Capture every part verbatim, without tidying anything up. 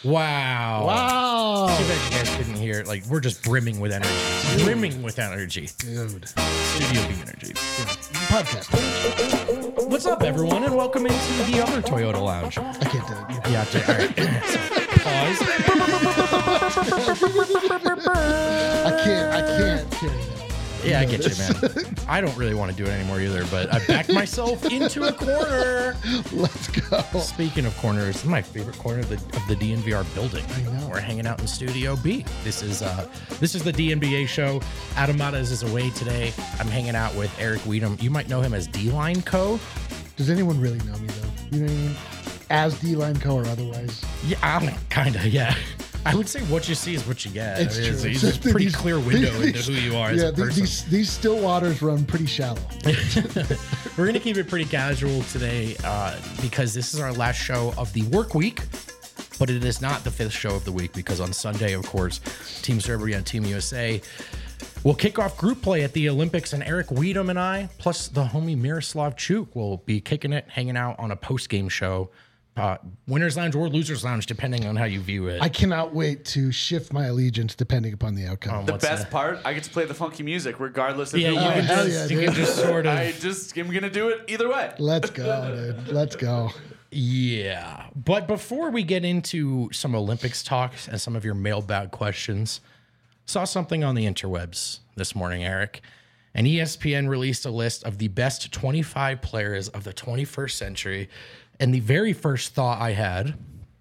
Wow. Wow. Too bad you guys couldn't hear it. Like, we're just brimming with energy. Dude. Brimming with energy. Dude. Studio B energy. Yeah. Podcast. What's up, everyone, and welcome into the other Toyota Lounge. I can't do it. Yeah, to, all right. Pause. I can't. I can't carry that. Yeah, I get you, man. I don't really want to do it anymore either, but I backed myself into a corner. Let's go. Speaking of corners, this is my favorite corner of the of the D N V R building. I know. We're hanging out in Studio B. This is uh this is the D N B A show. Adam Matas is away today. I'm hanging out with Eric Weedham. You might know him as D-Line Co. Does anyone really know me though? You know what I mean? As D-Line Co or otherwise? Yeah, I'm kind of, yeah. I would say what you see is what you get. It's I mean, true. It's, it's a pretty These- clear window these- into who you are yeah, as a these, person. these these still waters run pretty shallow. We're going to keep it pretty casual today uh, because this is our last show of the work week, but it is not the fifth show of the week because on Sunday, of course, Team Serbia and Team U S A will kick off group play at the Olympics, and Eric Weedham and I, plus the homie Miroslav Chuk, will be kicking it, hanging out on a post-game show. Uh, Winner's Lounge or Loser's Lounge, depending on how you view it. I cannot wait to shift my allegiance depending upon the outcome. Um, The What's best that? part, I get to play the funky music regardless of Yeah, who you Oh, can wins. hell just, yeah, you can dude. just sort of. I just am gonna do it either way. Let's go, dude. Let's go. Yeah. But before we get into some Olympics talks and some of your mailbag questions, saw something on the interwebs this morning, Eric. And E S P N released a list of the best twenty-five players of the twenty-first century. And the very first thought I had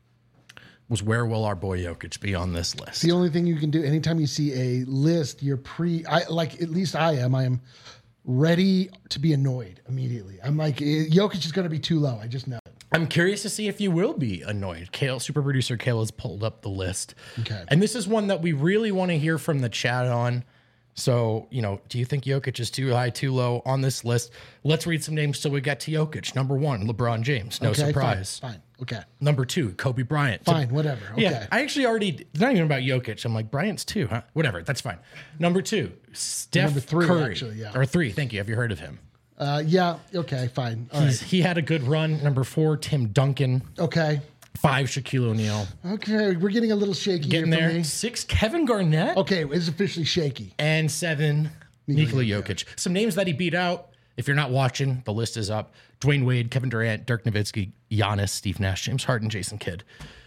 was, where will our boy Jokic be on this list? The only thing you can do anytime you see a list, you're pre, I like, at least I am, I am ready to be annoyed immediately. I'm like, eh, Jokic is going to be too low. I just know it. I'm curious to see if you will be annoyed. Kale, super producer Kale has pulled up the list. Okay. And this is one that we really want to hear from the chat on. So, you know, do you think Jokic is too high, too low on this list? Let's read some names till we get to Jokic. Number one, LeBron James. No Okay, surprise. Fine, fine. Okay. Number two, Kobe Bryant. Fine, whatever. Okay. Yeah, I actually already, it's not even about Jokic. I'm like, Bryant's two, huh? Whatever, that's fine. Number two, Steph Number three, Curry. actually, yeah. Or three, thank you. Have you heard of him? Uh, yeah. Okay. Fine. All He's, right. He had a good run. Number four, Tim Duncan. Okay. Five, Shaquille O'Neal. Okay. We're getting a little shaky Getting here for there. me. Six, Kevin Garnett. Okay. It's officially shaky. And seven, Nikola Nikola Jokic. Some names that he beat out. If you're not watching, the list is up. Dwayne Wade, Kevin Durant, Dirk Nowitzki, Giannis, Steve Nash, James Harden, Jason Kidd.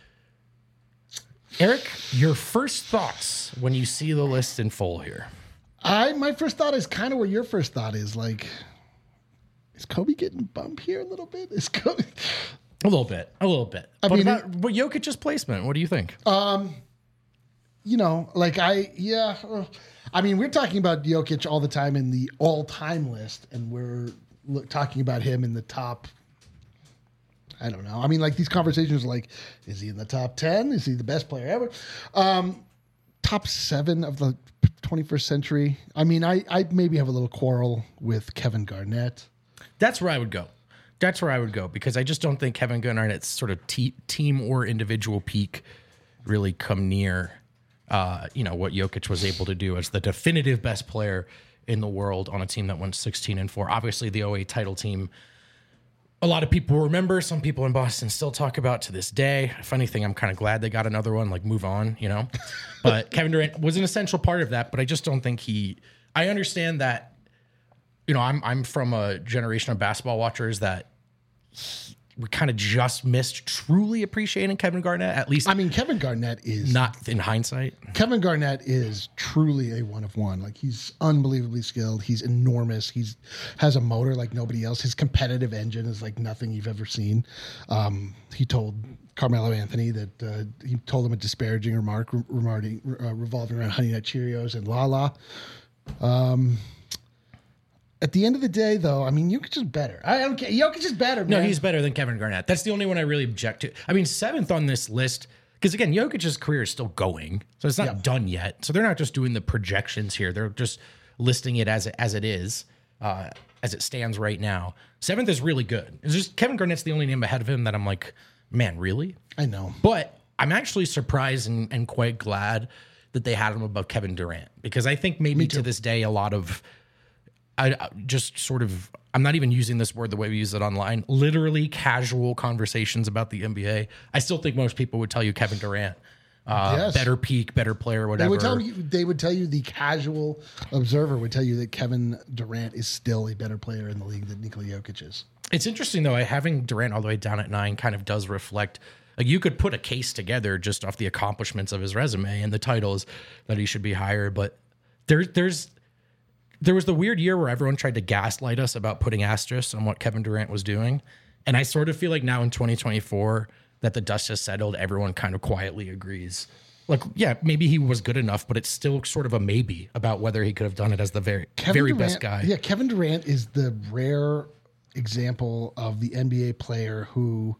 Eric, your first thoughts when you see the list in full here? I my first thought is kind of where your first thought is. Like, is Kobe getting bumped here a little bit? Is Kobe? A little bit, a little bit. I what mean, about what Jokic's placement? What do you think? You know, like I yeah. uh, I mean, we're talking about Jokic all the time in the all-time list, and we're look, talking about him in the top. I don't know. I mean, like these conversations are like, is he in the top ten? Is he the best player ever? Um, top seven of the twenty-first century. I mean, I, I maybe have a little quarrel with Kevin Garnett. That's where I would go. That's where I would go because I just don't think Kevin Garnett's sort of te- team or individual peak really come near, uh, you know, what Jokic was able to do as the definitive best player in the world on a team that went sixteen and four. Obviously, the oh eight title team. A lot of people remember. Some people in Boston still talk about to this day. Funny thing, I'm kind of glad they got another one. Like, move on, you know. But Kevin Durant was an essential part of that. But I just don't think he. I understand that. You know, I'm I'm from a generation of basketball watchers that he, we kind of just missed truly appreciating Kevin Garnett. At least, I mean, Kevin Garnett is not in hindsight. Kevin Garnett is truly a one of one. Like he's unbelievably skilled. He's enormous. He's has a motor like nobody else. His competitive engine is like nothing you've ever seen. Um, he told Carmelo Anthony that uh, he told him a disparaging remark re- remarking, uh, revolving around Honey Nut Cheerios and La La. Um, at the end of the day, though, I mean, Jokic is better. I don't care. Jokic is better, man. No, he's better than Kevin Garnett. That's the only one I really object to. I mean, seventh on this list, because again, Jokic's career is still going, so it's not Yeah. done yet. So they're not just doing the projections here; they're just listing it as it, as it is, uh, as it stands right now. Seventh is really good. It's just Kevin Garnett's the only name ahead of him that I'm like, man, really? I know. But I'm actually surprised and, and quite glad that they had him above Kevin Durant because I think maybe to this day a lot of I I just sort of I'm not even using this word the way we use it online, literally casual conversations about the N B A, I still think most people would tell you Kevin Durant. Uh, Yes. Better peak, better player, whatever. They would tell you. They would tell you. The casual observer would tell you that Kevin Durant is still a better player in the league than Nikola Jokic is. It's interesting though. Having Durant all the way down at nine kind of does reflect. Like you could put a case together just off the accomplishments of his resume and the titles that he should be higher. But there, there's there was the weird year where everyone tried to gaslight us about putting asterisks on what Kevin Durant was doing, and I sort of feel like now in twenty twenty-four that the dust has settled. Everyone kind of quietly agrees. Like, yeah, maybe he was good enough, but it's still sort of a maybe about whether he could have done it as the very, Kevin very Durant, best guy. Yeah, Kevin Durant is the rare example of the N B A player who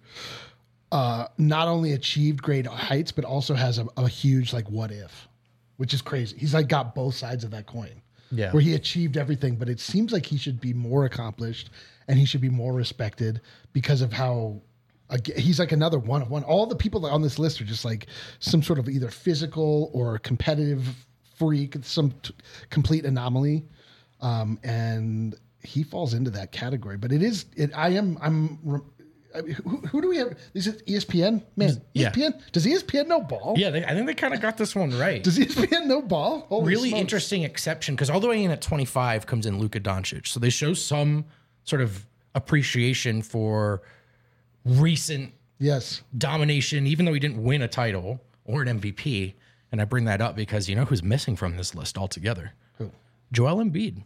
uh, not only achieved great heights, but also has a, a huge like what if, which is crazy. He's like got both sides of that coin. Yeah. Where he achieved everything, but it seems like he should be more accomplished and he should be more respected because of how ag- he's like another one of one. All the people on this list are just like some sort of either physical or competitive freak, some t- complete anomaly. Um, and he falls into that category, but it is, it, I am, I'm, re- I mean, who, who do we have? Is it E S P N? Man, Yeah. E S P N? Does E S P N know ball? Yeah, they, I think they kind of got this one right. Does E S P N know ball? Holy Really smokes. interesting exception because all the way in at twenty-five comes in Luka Doncic. So they show some sort of appreciation for recent Yes. domination, even though he didn't win a title or an M V P. And I bring that up because you know who's missing from this list altogether? Who? Joel Embiid.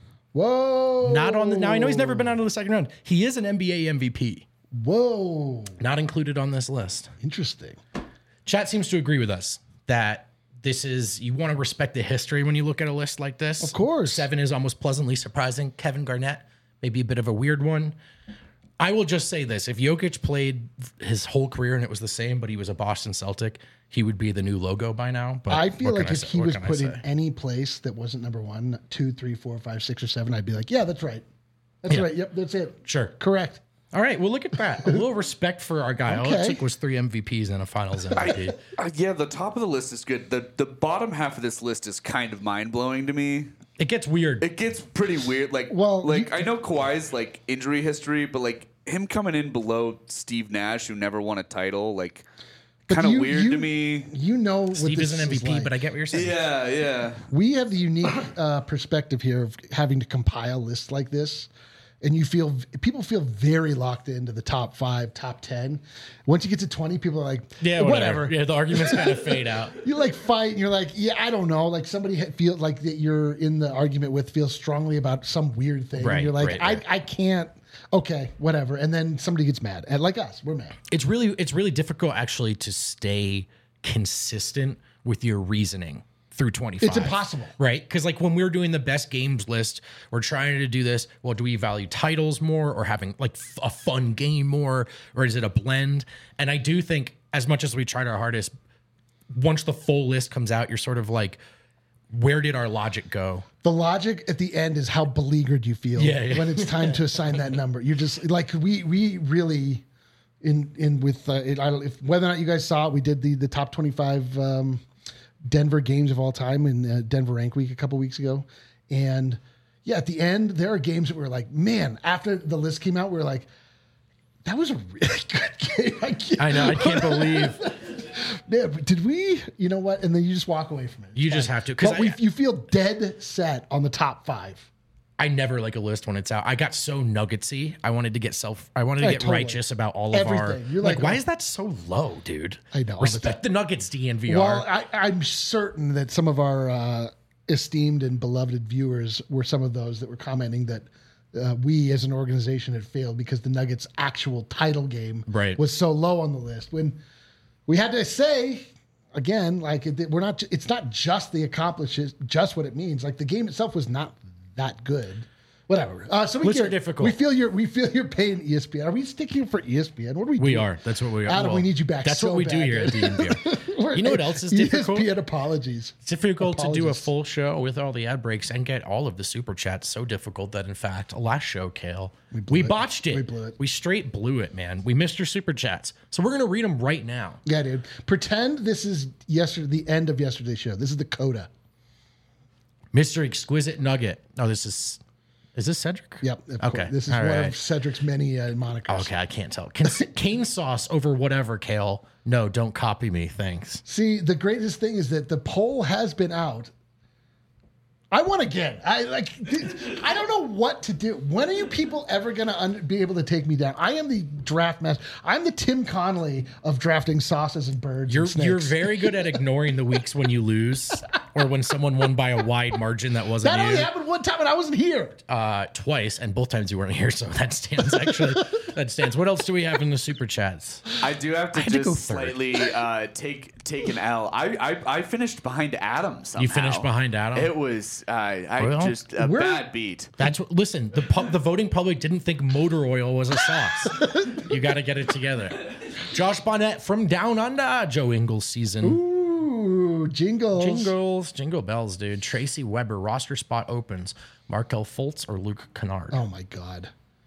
Whoa. Not on the. Now I know he's never been out of the second round. He is an N B A M V P. Whoa. Not included on this list. Interesting. Chat seems to agree with us that this is, you want to respect the history when you look at a list like this. Of course. Seven is almost pleasantly surprising. Kevin Garnett, maybe a bit of a weird one. I will just say this. If Jokic played his whole career and it was the same, but he was a Boston Celtic, he would be the new logo by now. But I feel what like can I if say- he what was can I put in say? any place that wasn't number one, two, three, four, five, six, or seven, I'd be like, yeah, that's right. That's Yeah. right. Yep, that's it. Sure. Correct. All right. Well, look at that. A little respect for our guy. All it Okay. took was three M V Ps and a finals M V P. Uh, yeah, the top of the list is good. The the bottom half of this list is kind of mind blowing to me. It gets weird. It gets pretty weird. Like, Well, like you- I know Kawhi's like injury history, but like him coming in below Steve Nash, who never won a title, like But kind of you- weird you- to me. You know what Steve this is an M V P, like. but I get what you're saying. Yeah, yeah. We have the unique uh, perspective here of having to compile lists like this. And you feel people feel very locked into the top five, top ten. Once you get to twenty, people are like, Yeah, whatever. Yeah, the arguments kind of fade out. You like fight, and you're like, yeah, I don't know. Like somebody ha- feels like that you're in the argument with feels strongly about some weird thing. Right, and you're like, right, right. I, I can't. Okay, whatever. And then somebody gets mad, and like us, we're mad. It's really it's really difficult actually to stay consistent with your reasoning through twenty-five. It's impossible. Right? Because like when we're doing the best games list, we're trying to do this. Well, do we value titles more or having like f- a fun game more? Or is it a blend? And I do think as much as we tried our hardest, once the full list comes out, you're sort of like, where did our logic go? The logic at the end is how beleaguered you feel Yeah, yeah. when it's time to assign that number. You're just like we we really in in with uh, it, I don't, if whether or not you guys saw it, we did the the top twenty-five um, Denver games of all time in uh, Denver Rank Week a couple weeks ago, and yeah, at the end there are games that were like, man, after the list came out, we were like, that was a really good game. I, can't, I know, I can't believe Yeah, but did we? You know what? And then you just walk away from it. you just have to. Because But we, you feel dead set on the top five. I never like a list when it's out. I got so nuggetsy. I wanted to get self. I wanted to Yeah, get totally. righteous about all of our. Everything. You're like, like, why oh. is that so low, dude? I know, all the Respect the, Nuggets, D N V R. Well, I, I'm certain that some of our uh, esteemed and beloved viewers were some of those that were commenting that uh, we as an organization had failed because the Nuggets' actual title game Right. was so low on the list. When we had to say, again, like it, we're not. It's not just the accomplishes, just what it means. Like the game itself was not that good. Whatever. Uh, so we Lists get, are difficult. We feel your we feel your pain. E S P N. Are we sticking for E S P N? What are we? we doing? are. That's what we are. Adam, we need you back That's so what we do bad, here at dude. D N V R. We're- You know what else is E S P N difficult? apologies. It's difficult to do a Apologies. full show with all the ad breaks and get all of the super chats. So difficult that, in fact, last show, Kale, we, blew it. botched it. We blew it. We straight blew it, man. We missed your super chats. So we're going to read them right now. Yeah, dude. Pretend this is yesterday, the end of yesterday's show. This is the coda. Mister Exquisite Nugget. Oh, this is Is this Cedric? Yep. of Okay. course. This is All one right. of Cedric's many uh, monikers. Okay, I can't tell. Can, cane sauce over whatever, Kale. No, don't copy me. Thanks. See, the greatest thing is that the poll has been out. I won again. I like. I don't know what to do. When are you people ever going to un- be able to take me down? I am the draft master. I'm the Tim Connolly of drafting sauces and birds. You're and snakes. you're very good at ignoring the weeks when you lose or when someone won by a wide margin that wasn't That you. only happened one time, and I wasn't here. Uh, twice, and both times you weren't here, so that stands. Actually, that stands. What else do we have in the super chats? I do have to I had to just go third. slightly uh, take take an L. I, I I finished behind Adam somehow. You finished behind Adam? It was uh, I Well, just a we're- bad beat. That's what. Listen, the pub, the voting public didn't think motor oil was a sauce. You got to get it together. Josh Bonnet from Down Under. Joe Ingles season. Ooh, jingles. Jingles, jingle bells, dude. Tracy Weber roster spot opens. Markel Fultz or Luke Kennard. Oh my God.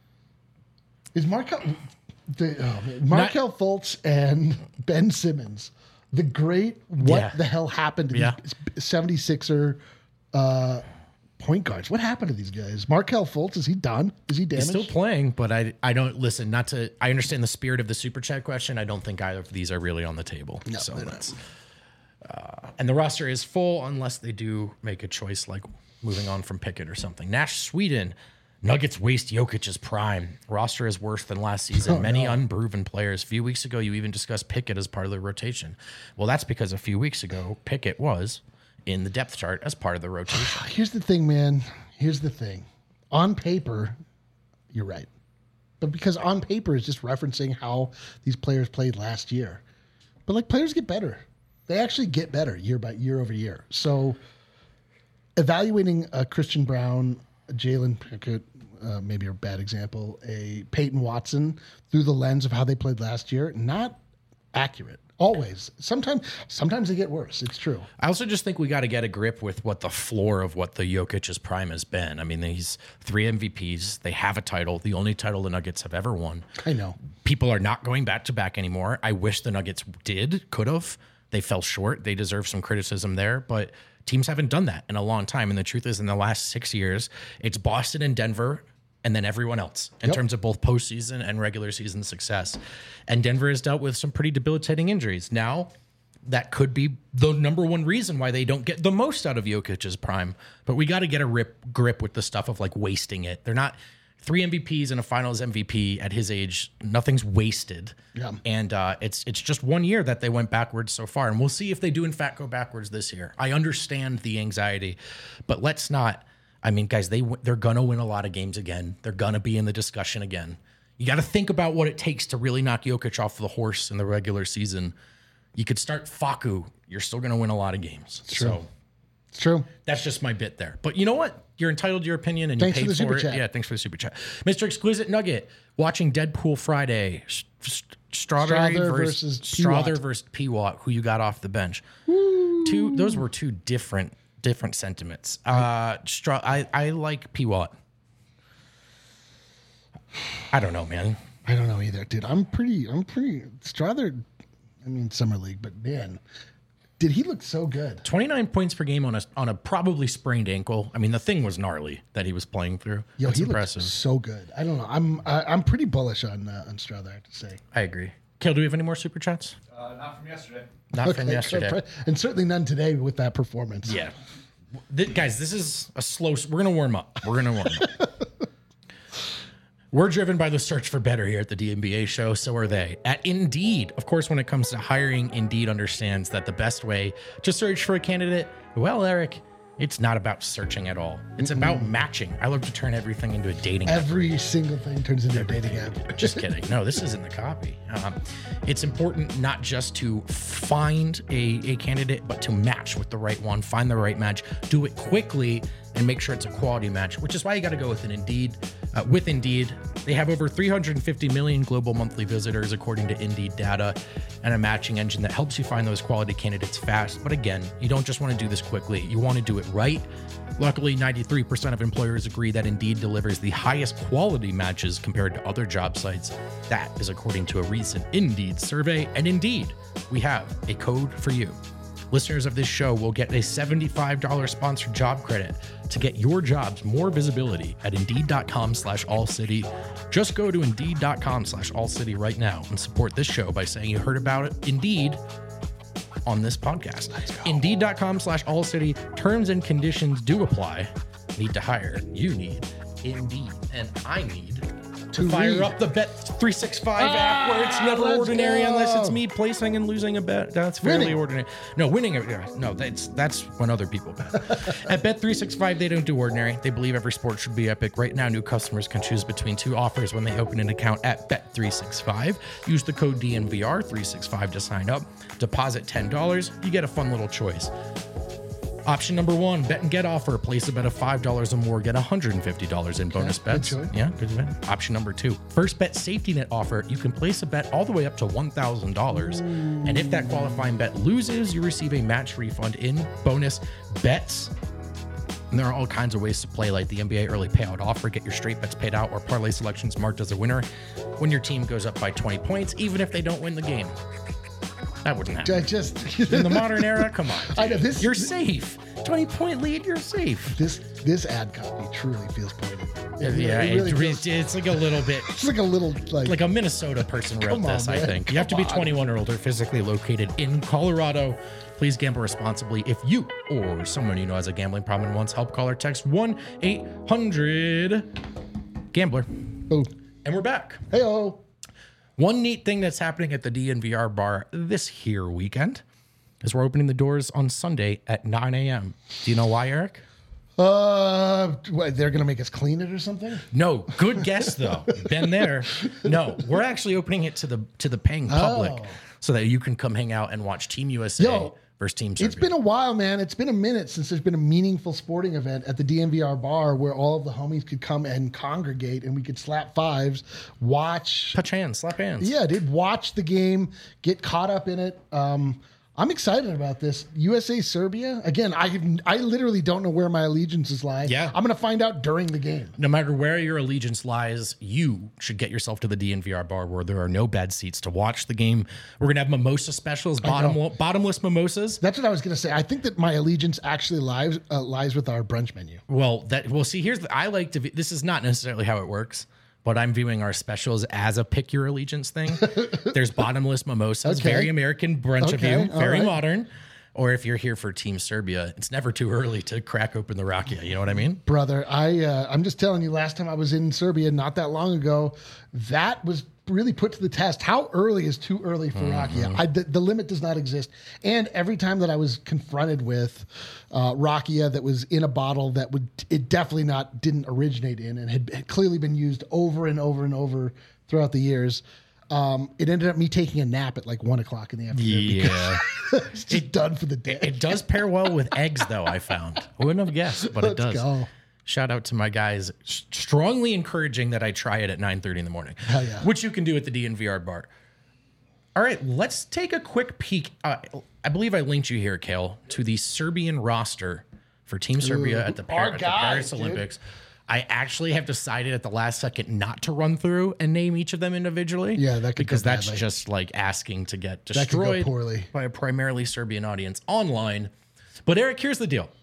Is Markel the oh, man. Markel Fultz and Ben Simmons, the great what Yeah. the hell happened to Yeah. these seventy-sixer uh, point guards? What happened to these guys? Markel Fultz, is he done? Is he damaged? Still playing, but I I don't listen. Not to. I understand the spirit of the super chat question. I don't think either of these are really on the table. No, so they're not. that's. Uh, and the roster is full unless they do make a choice like moving on from Pickett or something. Nash Sweden. Nuggets waste Jokic's prime. Roster is worse than last season. Oh, Many no. unproven players. A few weeks ago, you even discussed Pickett as part of the rotation. Well, that's because a few weeks ago, Pickett was in the depth chart as part of the rotation. Here's the thing, man. Here's the thing. On paper, you're right. But because on paper is just referencing how these players played last year. But like players get better. They actually get better year by year over year. So evaluating a Christian Brown, a Jalen Pickett, uh, maybe a bad example, a Peyton Watson through the lens of how they played last year, not accurate. Always. Sometimes sometimes they get worse. It's true. I also just think we got to get a grip with what the floor of what the Jokic's prime has been. I mean, he's three M V Ps. They have a title, the only title the Nuggets have ever won. I know. People are not going back to back anymore. I wish the Nuggets did, could have. They fell short. They deserve some criticism there, but teams haven't done that in a long time. And the truth is, in the last six years, it's Boston and Denver and then everyone else in Yep. terms of both postseason and regular season success. And Denver has dealt with some pretty debilitating injuries. Now, that could be the number one reason why they don't get the most out of Jokic's prime. But we got to get a rip, grip with the stuff of like wasting it. They're not three M V Ps and a Finals M V P at his age. Nothing's wasted. Yeah. And uh, it's it's just one year that they went backwards so far, and we'll see if they do in fact go backwards this year. I understand the anxiety, but let's not. I mean, guys, they w- they're gonna win a lot of games again. They're gonna be in the discussion again. You got to think about what it takes to really knock Jokic off the horse in the regular season. You could start Facu. You're still gonna win a lot of games. true. So It's true. that's just my bit there. But you know what? You're entitled to your opinion, and Thanks you for paid the super it. chat. Yeah, thanks for the super chat, Mister Exquisite Nugget. Watching Deadpool Friday. S- S- Strawberry Strother versus, versus Strother P-Watt. versus P-Watt, who you got off the bench. Two. Those were two different different sentiments. Uh, Stra- I I like P-Watt. I don't know, man. I don't know either, dude. I'm pretty. I'm pretty. Strother. I mean, summer league, but man, did he look so good? twenty-nine points per game on a on a probably sprained ankle. I mean, the thing was gnarly that he was playing through. Yo, That's he impressive. looked so good. I don't know. I'm. I, I'm pretty bullish on uh, on Strother. I have to say. I agree. Kale, do we have any more super chats? Uh, not from yesterday. Not from Okay, yesterday. and certainly none today with that performance. Yeah. Th- guys, this is a slow. We're going to warm up. We're going to warm up. We're driven by the search for better here at the D N B A show. So are they. At Indeed, of course, when it comes to hiring, Indeed understands that the best way to search for a candidate, well, Eric, it's not about searching at all. It's about matching. I love to turn everything into a dating app. Every single thing turns into a dating app. Just kidding. No, this isn't the copy. Um, it's important not just to find a, a candidate, but to match with the right one, find the right match, do it quickly, and make sure it's a quality match, which is why you got to go with an Indeed. Uh, with Indeed, they have over three hundred fifty million global monthly visitors, according to Indeed data, and a matching engine that helps you find those quality candidates fast. But again, you don't just want to do this quickly. You want to do it right. Luckily, ninety-three percent of employers agree that Indeed delivers the highest quality matches compared to other job sites. That is according to a recent Indeed survey. And Indeed, we have a code for you. Listeners of this show will get a seventy-five dollars sponsored job credit to get your jobs more visibility at Indeed.com slash All City. Just go to Indeed.com slash All City right now and support this show by saying you heard about it, Indeed, on this podcast. Indeed.com slash All City. Terms and conditions do apply. Need to hire. You need Indeed. And I need to fire read. up the Bet three sixty-five app where it's never let's ordinary go. unless it's me placing and losing a bet. That's fairly Winning. ordinary. No, winning. No, that's that's when other people bet. At Bet three sixty-five, they don't do ordinary. They believe every sport should be epic. Right now, new customers can choose between two offers when they open an account at Bet three sixty-five. Use the code D N V R three sixty-five to sign up. Deposit ten dollars. You get a fun little choice. Option number one, bet and get offer. Place a bet of five dollars or more, get one hundred fifty dollars in bonus good bets. choice. Yeah, good bet. Option number two, first bet safety net offer. You can place a bet all the way up to one thousand dollars. And if that qualifying bet loses, you receive a match refund in bonus bets. And there are all kinds of ways to play, like the N B A early payout offer. Get your straight bets paid out or parlay selections marked as a winner when your team goes up by twenty points, even if they don't win the game. That wouldn't happen. I just In the modern era, come on. I know this. You're safe. twenty point lead, you're safe. This this ad copy truly feels pointed. It, Yeah, it it really re- feels, it's like a little bit it's like a little like, like a Minnesota person wrote Come on, this, I man. think. You have to be Come on. twenty-one or older, physically located in Colorado. Please gamble responsibly. If you or someone you know has a gambling problem and wants help, call or text one eight hundred gambler. boom. And we're back. Hey oh. One neat thing that's happening at the D N V R bar this here weekend is we're opening the doors on Sunday at nine a.m. Do you know why, Eric? Uh, what, they're gonna make us clean it or something? No, good guess though. Been there. No, we're actually opening it to the to the paying public Oh. so that you can come hang out and watch Team U S A Yo, versus Team Serbia. It's been a while, man. It's been a minute since there's been a meaningful sporting event at the D N V R bar where all of the homies could come and congregate and we could slap fives, watch. touch hands, slap hands. Yeah, did watch the game, get caught up in it. Um, I'm excited about this. U S A Serbia. Again, I I literally don't know where my allegiances lie. Yeah. I'm gonna find out during the game. No matter where your allegiance lies, you should get yourself to the D N V R bar where there are no bad seats to watch the game. We're gonna have mimosa specials, bottom, bottomless mimosas. That's what I was gonna say. I think that my allegiance actually lies uh, lies with our brunch menu. Well, that well, see, here's the, I like to. This is not necessarily how it works, but I'm viewing our specials as a pick your allegiance thing. There's bottomless mimosas, Okay. very American brunch of Okay, you, all very right. modern. Or if you're here for Team Serbia, it's never too early to crack open the rakia. You know what I mean? Brother, I uh, I'm just telling you. Last time I was in Serbia, not that long ago, that was really put to the test. How early is too early for rakia? I, the, the limit does not exist. And every time that I was confronted with uh, rakia that was in a bottle that would it definitely not didn't originate in and had, had clearly been used over and over and over throughout the years. Um, it ended up me taking a nap at like one o'clock in the afternoon. Yeah. because it's just done for the day. It does pair well with eggs, though, I found. I wouldn't have guessed, but it Let's does. go. Shout out to my guys, s- strongly encouraging that I try it at nine thirty in the morning. Hell yeah. Which you can do at the D N V R bar. All right, let's take a quick peek. Uh, I believe I linked you here, Kale, to the Serbian roster for Team Serbia at the, Par- our at the guys, Paris dude. Olympics. I actually have decided at the last second not to run through and name each of them individually. Yeah, that could go because that's badly. just like asking to get That could go destroyed poorly. by a primarily Serbian audience online. But Eric, here's the deal.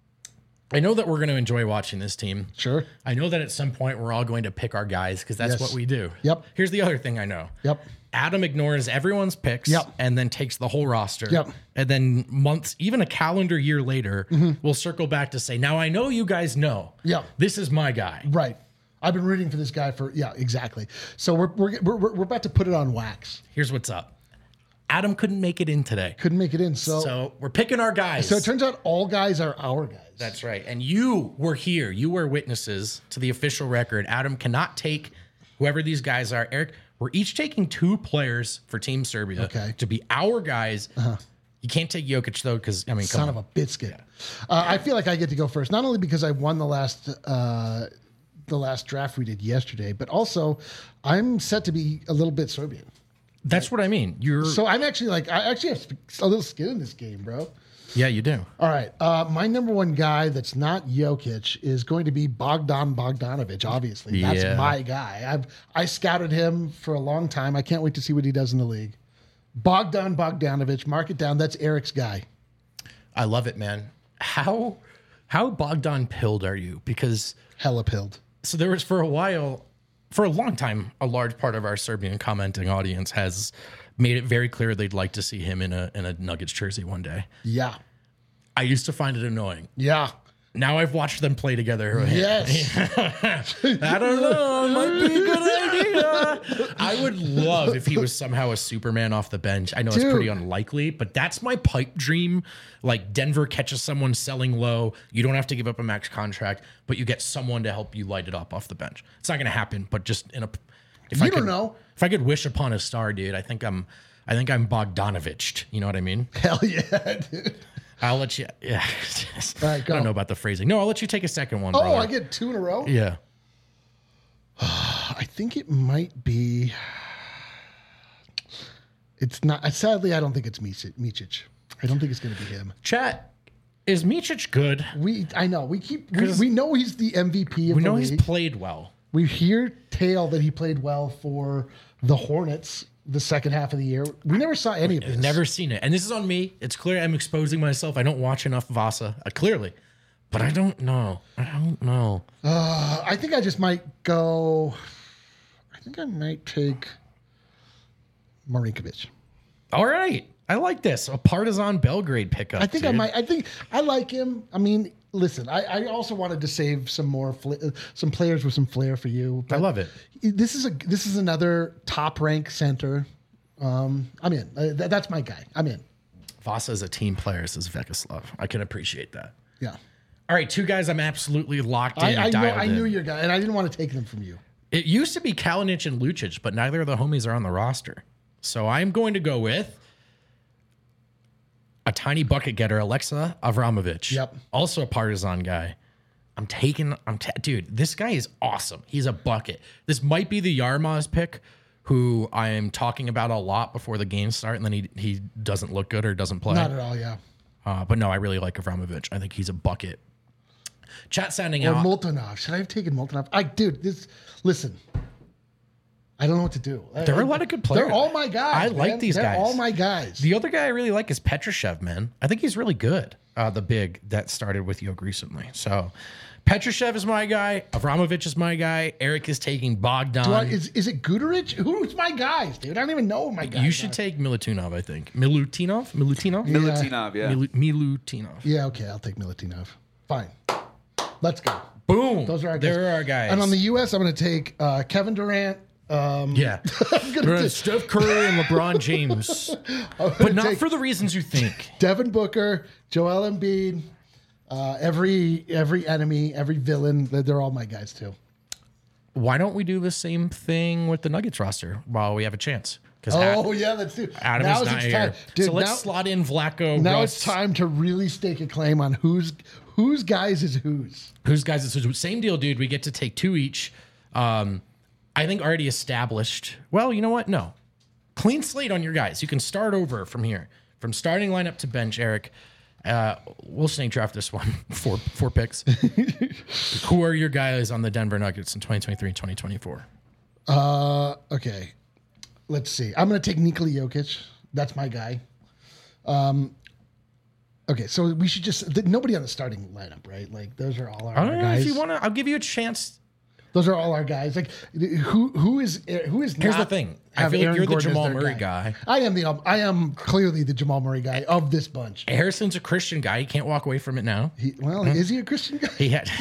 I know that we're going to enjoy watching this team. Sure. I know that at some point we're all going to pick our guys because that's Yes. what we do. Yep. Here's the other thing I know. Yep. Adam ignores everyone's picks Yep. and then takes the whole roster. Yep. And then months, even a calendar year later, Mm-hmm. we'll circle back to say, now I know you guys know. Yep. This is my guy. Right. I've been rooting for this guy for yeah, exactly. So we're we're we're, we're about to put it on wax. Here's what's up. Adam couldn't make it in today. Couldn't make it in. So so, So we're picking our guys. it turns out all guys are our guys. That's right. And you were here. You were witnesses to the official record. Adam cannot take whoever these guys are. Eric, we're each taking two players for Team Serbia Okay. to be our guys. You can't take Jokic, though, because, I mean, come Son on. of a biscuit. Uh, I feel like I get to go first, not only because I won the last uh, the last draft we did yesterday, but also I'm set to be a little bit Serbian. That's what I mean. You're. So I'm actually like I actually have a little skin in this game, bro. yeah, you do. All right. Uh, my number one guy that's not Jokic is going to be Bogdan Bogdanovic, obviously. That's Yeah. my guy. I've I scouted him for a long time. I can't wait to see what he does in the league. Bogdan Bogdanovic, mark it down. That's Eric's guy. I love it, man. How how Bogdan pilled are you? Because Hella pilled. so there was for a while, for a long time, a large part of our Serbian commenting audience has made it very clear they'd like to see him in a in a Nuggets jersey one day. Yeah. I used to find it annoying. Yeah. Now I've watched them play together. Yes. I don't know. It might be a good idea. I would love if he was somehow a Superman off the bench. I know it's Dude. pretty unlikely, but that's my pipe dream. Like Denver catches someone selling low. You don't have to give up a max contract, but you get someone to help you light it up off the bench. It's not going to happen, but just in a. If You I don't could, know. If I could wish upon a star, dude, I think I'm. I think I'm Bogdanovich. You know what I mean? Hell yeah, dude. I'll let you. Yeah. All right, I go. don't know about the phrasing. No, I'll let you take a second one. Oh, brother. I get two in a row? Yeah. I think it might be. It's not. Sadly, I don't think it's Micic. Micic. I don't think it's going to be him. Chat, is Micic good? We, I know. We keep. We, 'Cause we know he's the M V P of We the know league. he's played well. We hear tale that he played well for the Hornets the second half of the year. We never saw any of this. I've never seen it. And this is on me. It's clear I'm exposing myself. I don't watch enough Vasa, uh, clearly. But I don't know. I don't know. Uh, I think I just might go. I think I might take Marinkovic. All right. I like this. A Partizan Belgrade pickup. I think I dude. might. I think I like him. I mean, listen. I, I also wanted to save some more fla- some players with some flair for you. I love it. This is a this is another top rank center. Um, I'm in. Uh, th- that's my guy. I'm in. Vasa is a team player, says Vekislav. I can appreciate that. Yeah. All right, two guys I'm absolutely locked in. I, I, know, dialed I in. knew your guy, and I didn't want to take them from you. It used to be Kalinic and Lucic, but neither of the homies are on the roster. So I'm going to go with a tiny bucket getter, Alexa Avramovic. Yep. Also a Partizan guy. I'm taking, I'm ta- dude, this guy is awesome. He's a bucket. This might be the Yarmaz pick, who I am talking about a lot before the games start, and then he he doesn't look good or doesn't play. Not at all. Yeah. Uh, but no, I really like Avramovic. I think he's a bucket. Chat sounding Or out. Moltenov. Should I have taken Moltenov? I dude, this. Listen. I don't know what to do. There are a lot of good players. They're all my guys. I like man. these They're guys. all my guys. The other guy I really like is Petrushev, man. I think he's really good. Uh, the big that started with Yoke recently. So Petrushev is my guy. Avramovic is my guy. Eric is taking Bogdan. Do I, is is it Guderic? Who's my guys, dude? I don't even know who my guys. you should are. take Milutinov, I think. Milutinov? Milutinov? Yeah. Milutinov, yeah. Milu- Milutinov. Yeah. Okay. I'll take Milutinov. Fine. Let's go. Boom. Those are our guys. There are our guys. And on the U S, I'm going to take uh, Kevin Durant. Um, yeah. I'm gonna We're on take Steph Curry and LeBron James. I'm gonna But not take for the reasons you think. Devin Booker, Joel Embiid, uh, every every enemy, every villain. They're, they're all my guys too. Why don't we do the same thing with the Nuggets roster while we have a chance? Because Oh yeah, let's do. Adam now is not it's here. time, dude. so let's now, slot in Vlaco. now Russ. it's time to really stake a claim on who's whose guys is whose. Who's guys? It's same deal, dude. We get to take two each. Um, I think already established. Well, you know what? No. Clean slate on your guys. You can start over from here. From starting lineup to bench, Eric. Uh, we'll snake draft this one. Four four picks. Who are your guys on the Denver Nuggets in twenty twenty-three and twenty twenty-four? Uh, okay. Let's see. I'm going to take Nikola Jokic. That's my guy. Um, okay, so we should just th- nobody on the starting lineup, right? Like those are all our, I our don't know guys. if you want to. I'll give you a chance. Those are all our guys. Like who who is who is Here's not the thing. I have feel like Aaron you're the Gordon as Jamal their Murray guy. I am the um, I am clearly the Jamal Murray guy of this bunch. Harrison's a Christian guy. He can't walk away from it now. He, well, is he a Christian guy? He had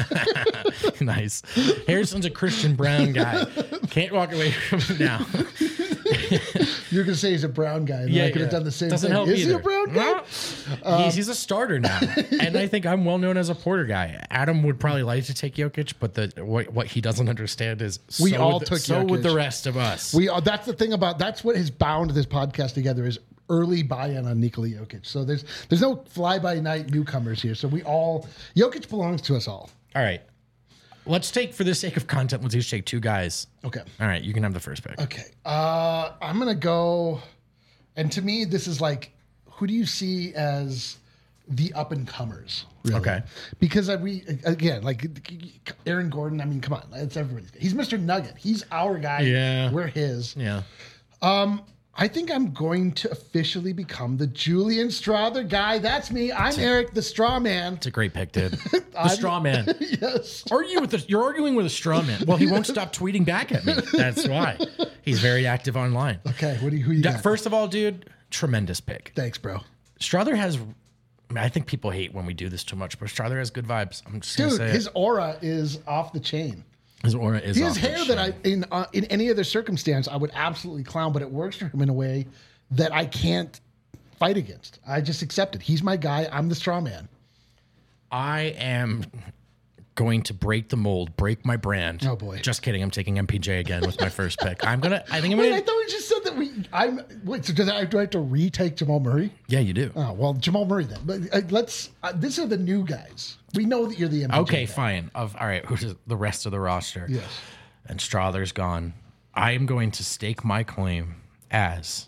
nice. Harrison's a Christian Brown guy. Can't walk away from it now. You're gonna say he's a brown guy, and I could have done the same Doesn't thing. help Is either. he a brown guy? No. he's, he's a starter now, and I think I'm well known as a Porter guy. Adam would probably like to take Jokic, but the what, what he doesn't understand is We so all would, took so would Jokic. the rest of us. We are. That's the thing about. That's what has bound this podcast together is early buy-in on Nikola Jokic. So there's there's no fly-by-night newcomers here. So we all Jokic belongs to us all. all right, let's take for the sake of content. Let's each take two guys. Okay. All right, you can have the first pick. Okay. Uh, I'm gonna go, and to me, this is like, who do you see as the up and comers? Really? Okay. Because I, we again like Aaron Gordon. I mean, come on, it's everybody's. He's Mister Nugget. He's our guy. Yeah. We're his. Yeah. I'm I think I'm going to officially become the Julian Strother guy. That's me. I'm Eric, the straw man. It's a great pick, dude. The straw man. Yes. Argue with the, you're arguing with a straw man. Well, he won't stop tweeting back at me. That's why. He's very active online. Okay, what do you, who you got? First of all, dude, tremendous pick. Thanks, bro. Strother has, I think people hate when we do this too much, but Strother has good vibes. I'm just going to Dude, say his it. aura is off the chain. His aura is His off the hair that I, chain. in uh, in any other circumstance, I would absolutely clown, but it works for him in a way that I can't fight against. I just accept it. He's my guy. I'm the straw man. I am going to break the mold, break my brand. Oh, boy. Just kidding. I'm taking M P J again with my first pick. I'm gonna. I think I'm Wait, gonna. I thought we just said that we. I'm. Wait, so does I, do I have to retake Jamal Murray? Yeah, you do. Oh well, Jamal Murray then. But uh, let's. Uh, these are the new guys. We know that you're the M P J Okay, guy. fine. Of all right, who's the rest of the roster? Yes. And Strother's gone. I am going to stake my claim as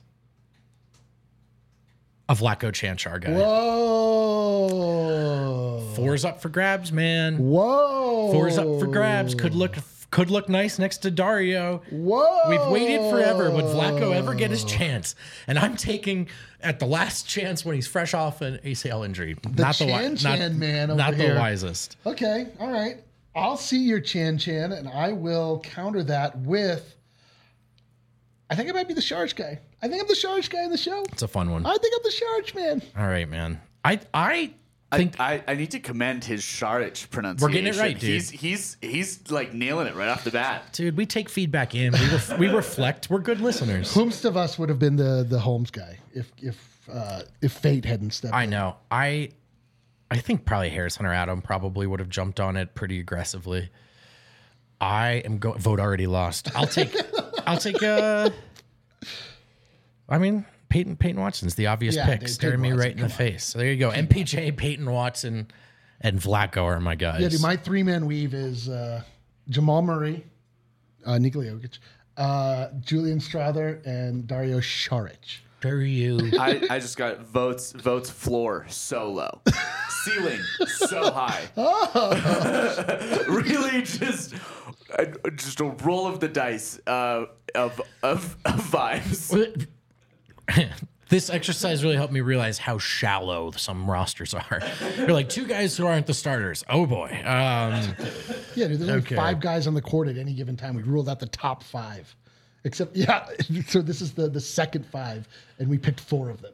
a Vlatko Chanchar guy. Whoa. Four's up for grabs, man. Whoa. Four's up for grabs. Could look could look nice next to Dario. Whoa. We've waited forever. Would Vlatko ever get his chance? And I'm taking at the last chance when he's fresh off an A C L injury. The not the wi- Chan not, Chan man over not here. the wisest. Okay. All right. I'll see your Chan Chan, and I will counter that with. I think I might be the Sharge guy. I think I'm the Sharge guy in the show. It's a fun one. I think I'm the Sharge man. All right, man. I I think I, I need to commend his Sharich pronunciation. We're getting it right, dude. He's he's he's like nailing it right off the bat. dude, we take feedback in. We ref, we reflect. We're good listeners. Whomst of us would have been the the Holmes guy if if uh, if fate hadn't stepped I in. know. I I think probably Harris Hunter Adam probably would have jumped on it pretty aggressively. I am going. Vote already lost. I'll take. I'll take. Uh, I mean, Peyton Peyton Watson's the obvious Yeah, pick, dude, staring me Peyton right in Watson, the face. So there you go. M P J, Peyton Watson, and Vlatko are my guys. Yeah, dude, my three man weave is uh, Jamal Murray, uh, Nikola Jokic, uh, Julian Strother, and Dario Saric. Dario. I, I just got votes votes floor so low, ceiling so high. Really, just uh, just a roll of the dice uh, of, of of vibes. This exercise really helped me realize how shallow some rosters are. They're like two guys who aren't the starters. Oh boy. Um, Yeah, dude, there's Okay. like five guys on the court at any given time. We ruled out the top five. Except, yeah, so this is the, the second five, and we picked four of them.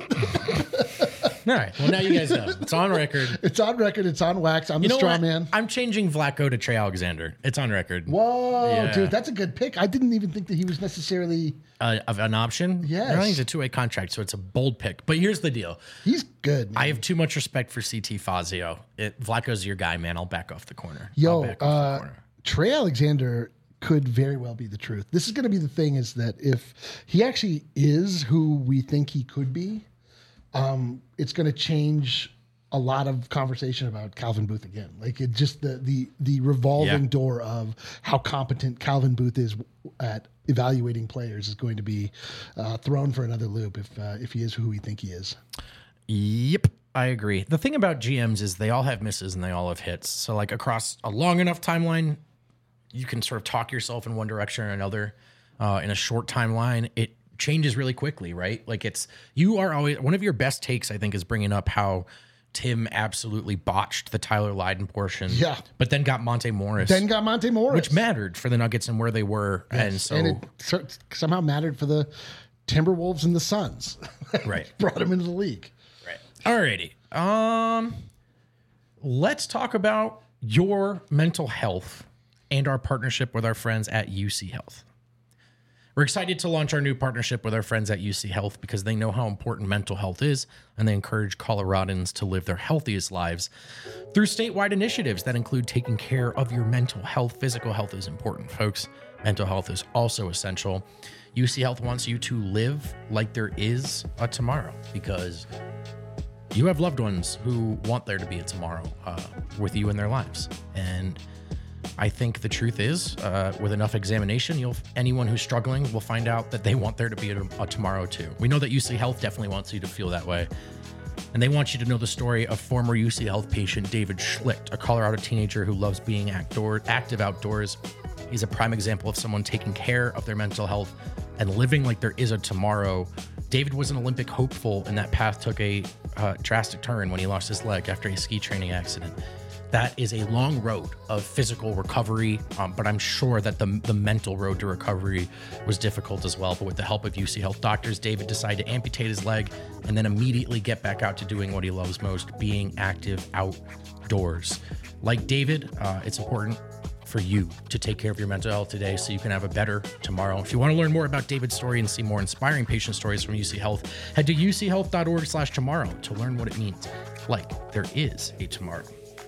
all right. Well, now you guys know. It's on record. It's on record. It's on wax. I'm You the know straw what? man. I'm changing Vlatko to Trey Alexander. It's on record. Whoa, Yeah. dude, that's a good pick. I didn't even think that he was necessarily. Uh, of an option? Yes. I don't think it's a two-way contract, so it's a bold pick. But here's the deal. He's good. Man. I have too much respect for C T Fazio. It, Vlatko's your guy, man. I'll back off the corner. I'll Yo, back off uh, the corner. Trey Alexander could very well be the truth. This is going to be the thing: is that if he actually is who we think he could be, um, it's going to change a lot of conversation about Calvin Booth again. Like it just the the the revolving Yeah. door of how competent Calvin Booth is at evaluating players is going to be uh, thrown for another loop if uh, if he is who we think he is. Yep, I agree. The thing about G Ms is they all have misses and they all have hits. So like across a long enough timeline, you can sort of talk yourself in one direction or another. Uh, in a short timeline, it changes really quickly, right? Like it's you are always one of your best takes. I think is bringing up how Tim absolutely botched the Tyler Lydon portion. Yeah. but then got Monte Morris, Then got Monte Morris, which mattered for the Nuggets and where they were, and so and it so- somehow mattered for the Timberwolves and the Suns. right. Brought him into the league. Right. Alrighty. Um, let's talk about your mental health and our partnership with our friends at U C Health. We're excited to launch our new partnership with our friends at U C Health because they know how important mental health is, and they encourage Coloradans to live their healthiest lives through statewide initiatives that include taking care of your mental health. Physical health is important, folks. Mental health is also essential. U C Health wants you to live like there is a tomorrow because you have loved ones who want there to be a tomorrow uh, with you in their lives. And I think the truth is, uh, with enough examination, you'll anyone who's struggling will find out that they want there to be a, a tomorrow too. We know that U C Health definitely wants you to feel that way. And they want you to know the story of former U C Health patient David Schlicht, a Colorado teenager who loves being outdoor, active outdoors. He's a prime example of someone taking care of their mental health and living like there is a tomorrow. David was an Olympic hopeful, and that path took a uh, drastic turn when he lost his leg after a ski training accident. That is a long road of physical recovery, um, but I'm sure that the the mental road to recovery was difficult as well. But with the help of U C Health doctors, David decided to amputate his leg and then immediately get back out to doing what he loves most, being active outdoors. Like David, uh, it's important for you to take care of your mental health today so you can have a better tomorrow. If you want to learn more about David's story and see more inspiring patient stories from U C Health, head to u c health dot org slash tomorrow to learn what it means. Like there is a tomorrow.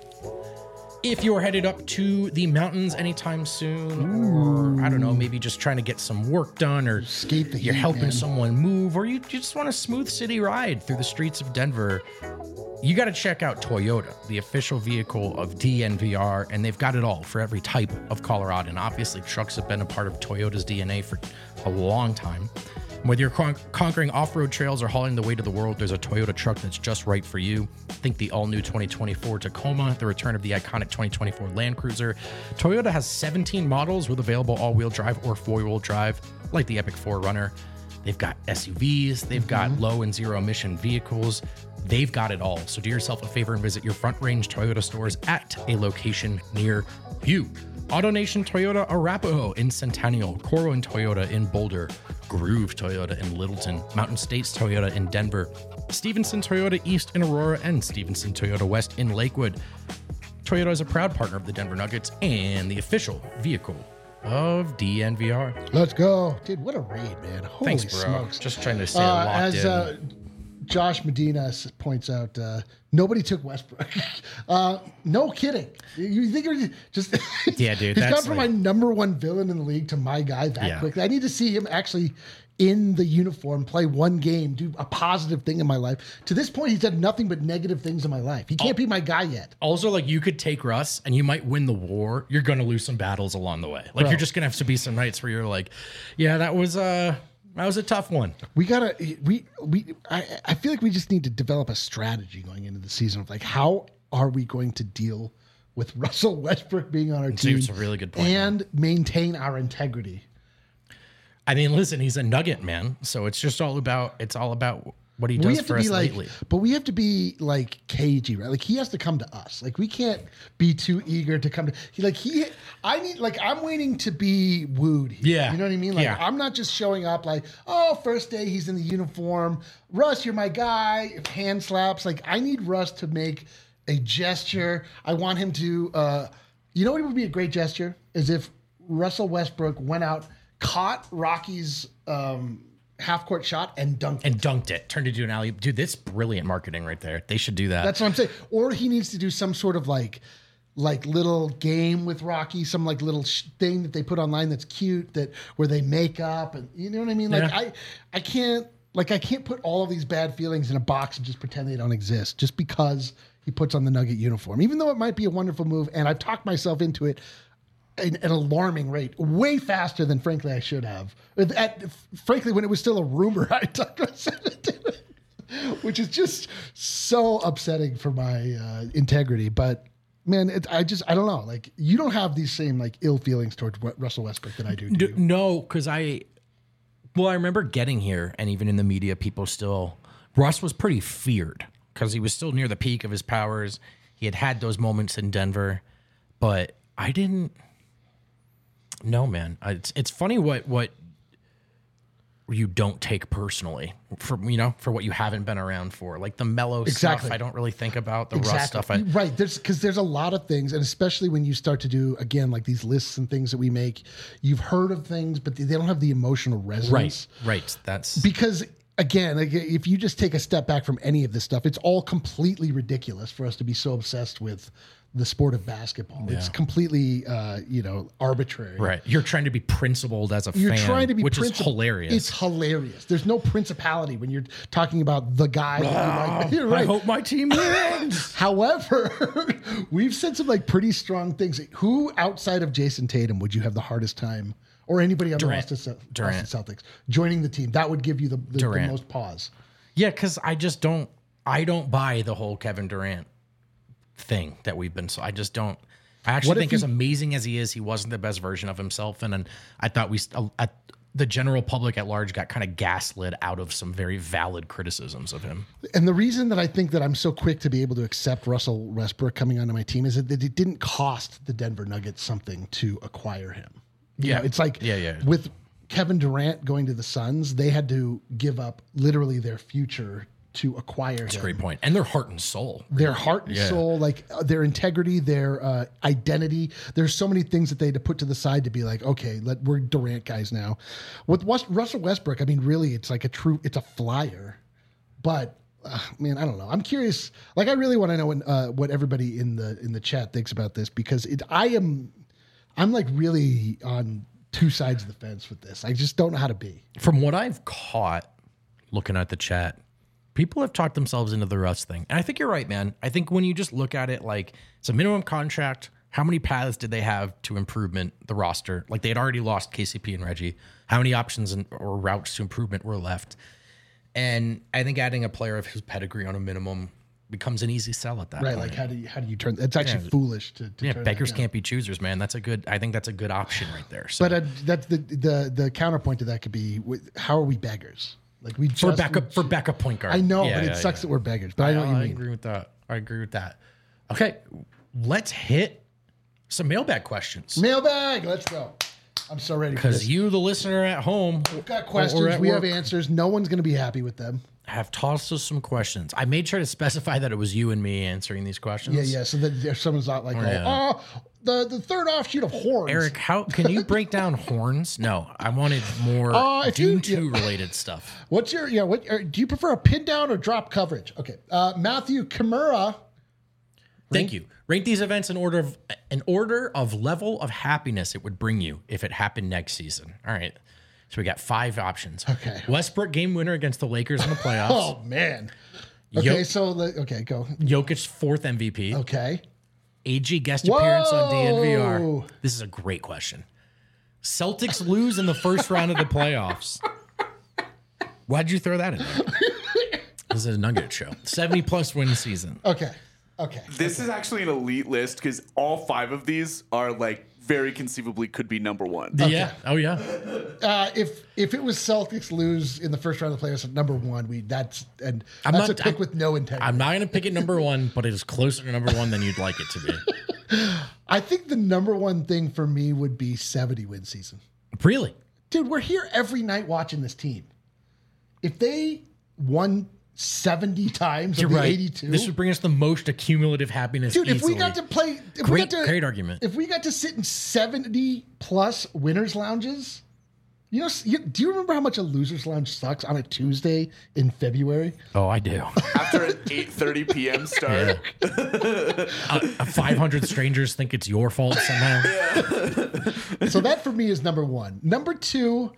If you're headed up to the mountains anytime soon, or I don't know, maybe just trying to get some work done, or Escape the you're heat, helping man. someone move, or you, you just want a smooth city ride through the streets of Denver, you got to check out Toyota, the official vehicle of D N V R, and they've got it all for every type of Colorado. And obviously, trucks have been a part of Toyota's D N A for a long time. Whether you're con- conquering off-road trails or hauling the weight of the world, there's a Toyota truck that's just right for you. Think the all-new twenty twenty-four Tacoma, the return of the iconic twenty twenty-four Land Cruiser. Toyota has seventeen models with available all-wheel drive or four-wheel drive, like the Epic four runner. They've got S U Vs, they've got low and zero emission vehicles. They've got it all. So do yourself a favor and visit your Front Range Toyota stores at a location near you. AutoNation Toyota Arapahoe in Centennial, Corwin Toyota in Boulder, Groove Toyota in Littleton, Mountain States Toyota in Denver, Stevenson Toyota East in Aurora, and Stevenson Toyota West in Lakewood. Toyota is a proud partner of the Denver Nuggets and the official vehicle of D N V R. Let's go. Dude, what a raid, man. Holy Thanks, bro. smokes. Just trying to stay Uh, locked as in. uh, Josh Medina s- points out, uh, nobody took Westbrook. uh, no kidding. You think you're just Yeah, dude, He's gone that's from like- my number one villain in the league to my guy that Yeah. quickly. I need to see him actually in the uniform, play one game, do a positive thing in my life. To this point, he's done nothing but negative things in my life. He can't be my guy yet. Also, like, you could take Russ and you might win the war. You're going to lose some battles along the way. Like, Bro. you're just going to have to be some nights where you're like, yeah, that was uh that was a tough one. We gotta we we I, I feel like we just need to develop a strategy going into the season of like how are we going to deal with Russell Westbrook being on our Dude, team it's a really good point, and maintain our integrity. I mean, listen, he's a nugget, man. So it's just all about it's all about what he We does have for to be us like, lately. but we have to be like cagey, right? Like he has to come to us. Like we can't be too eager to come to. He like he. I need like I'm waiting to be wooed. here. Yeah. You know what I mean? Like Yeah. I'm not just showing up like, oh, first day he's in the uniform. Russ, you're my guy. Hand slaps. Like I need Russ to make a gesture. I want him to. uh You know what would be a great gesture is if Russell Westbrook went out, caught Rocky's um, half court shot and dunked. And dunked it, turned it into an alley. Dude, that's brilliant marketing right there. They should do that. That's what I'm saying. Or he needs to do some sort of like, like little game with Rocky, some like little sh- thing that they put online that's cute that where they make up and you know what I mean. Like Yeah. I, I can't like I can't put all of these bad feelings in a box and just pretend they don't exist just because he puts on the Nugget uniform, even though it might be a wonderful move. And I've talked myself into it at an alarming rate, way faster than frankly I should have. At, frankly, when it was still a rumor, I talked myself into it, which is just so upsetting for my uh, integrity. But man, it, I just I don't know. Like you don't have these same like ill feelings towards what Russell Westbrook that I do. do D- you? no, because I, well, I remember getting here, and even in the media, people still, Russ was pretty feared because he was still near the peak of his powers. He had had those moments in Denver, but I didn't. No, man, I- it's it's funny what what you don't take personally for you know for what you haven't been around for, like the mellow Exactly. stuff. I don't really think about the Russ stuff. I, right. There's because there's a lot of things, and especially when you start to do again like these lists and things that we make, you've heard of things, but they don't have the emotional resonance. right, right. That's Because again, like, if you just take a step back from any of this stuff, it's all completely ridiculous for us to be so obsessed with the sport of basketball. It's completely, uh, you know, arbitrary. right. You're trying to be principled as a You're fan, trying to be which princip- is hilarious. It's hilarious. There's no principality when you're talking about the guy that you like. You're I right. hope my team wins. However, we've said some like pretty strong things. Who outside of Jason Tatum would you have the hardest time, or anybody on Durant. the Boston, Ce- Durant. Boston Celtics joining the team? That would give you the, the, the Durant. most pause. Yeah, because I just don't. I don't buy the whole Kevin Durant thing that we've been. So I just don't. I actually What if think he- as amazing as he is, he wasn't the best version of himself. And, and I thought we, st- I, the general public at large got kind of gaslit out of some very valid criticisms of him. And the reason that I think that I'm so quick to be able to accept Russell Westbrook coming onto my team is that it didn't cost the Denver Nuggets something to acquire him. You Yeah. know, it's like Yeah, yeah. with Kevin Durant going to the Suns, they had to give up literally their future to acquire That's a him. great point. And their heart and soul. Their heart and Yeah. soul, like uh, their integrity, their uh, identity. There's so many things that they had to put to the side to be like, okay, let, we're Durant guys now. With West, Russell Westbrook, I mean, really, it's like a true, it's a flyer. But uh, man, I don't know. I'm curious. Like, I really want to know when, uh, what everybody in the in the chat thinks about this because it. I am, I'm like really on two sides of the fence with this. I just don't know how to be. From what I've caught looking at the chat, people have talked themselves into the Russ thing. And I think you're right, man. I think when you just look at it like it's a minimum contract, how many paths did they have to improvement the roster? Like they had already lost K C P and Reggie. How many options and, or routes to improvement were left? And I think adding a player of his pedigree on a minimum becomes an easy sell at that Right? point. Like, how do you how do you turn? It's actually Yeah. foolish to. to yeah, turn beggars that down. can't be choosers, man. That's a good. I think that's a good option right there. So But uh, that's the the the counterpoint to that could be: with- how are we beggars? Like we for just, backup for backup point guard. I know, Yeah, but yeah, it sucks yeah. that we're beggars. But I know what you I mean. agree with that. I agree with that. Okay, let's hit some mailbag questions. Mailbag, let's go. I'm so ready for this. Because you, the listener at home, We've got or questions. at We have work, answers. No one's going to be happy with them. have tossed us some questions. I made sure to specify that it was you and me answering these questions. Yeah, yeah. So that if someone's not like, yeah. oh, oh, the the third offshoot of horns. Eric, how can you break down horns? No, I wanted more Uh, if you- Dune two related stuff. what's your yeah? What uh, do you prefer, a pin down or drop coverage? Okay, uh, Matthew Kimura. Thank you. Rank these events in order of an order of level of happiness it would bring you if it happened next season. All right. So we got five options. Okay. Westbrook game winner against the Lakers in the playoffs. Oh man. Okay, Yo- so the, okay, go. Jokic's fourth M V P. Okay. A G guest appearance on D N V R. Whoa. This is a great question. Celtics lose in the first round of the playoffs. Why'd you throw that in there? This is a Nugget show. seventy plus win season. Okay. Okay. This is actually an elite list because all five of these are like very conceivably could be number one. Yeah. Oh, yeah. Uh, if if it was Celtics lose in the first round of the playoffs at number one, we that's and I'm that's not- a pick I'm- with no integrity. I'm not going to pick it number one, but it is closer to number one than you'd like it to be. I think the number one thing for me would be seventy win season. Really? Dude, we're here every night watching this team. If they won seventy times You're of the right. eighty-two, This would bring us the most accumulative happiness. dude, if we easily. got to play, if we Great, got to, great argument. if we got to sit in seventy plus winners lounges, you know, you, do you remember how much a losers lounge sucks on a Tuesday in February? Oh, I do. After an eight thirty p.m. start. uh, five hundred strangers think it's your fault somehow. So that for me is number one. Number two,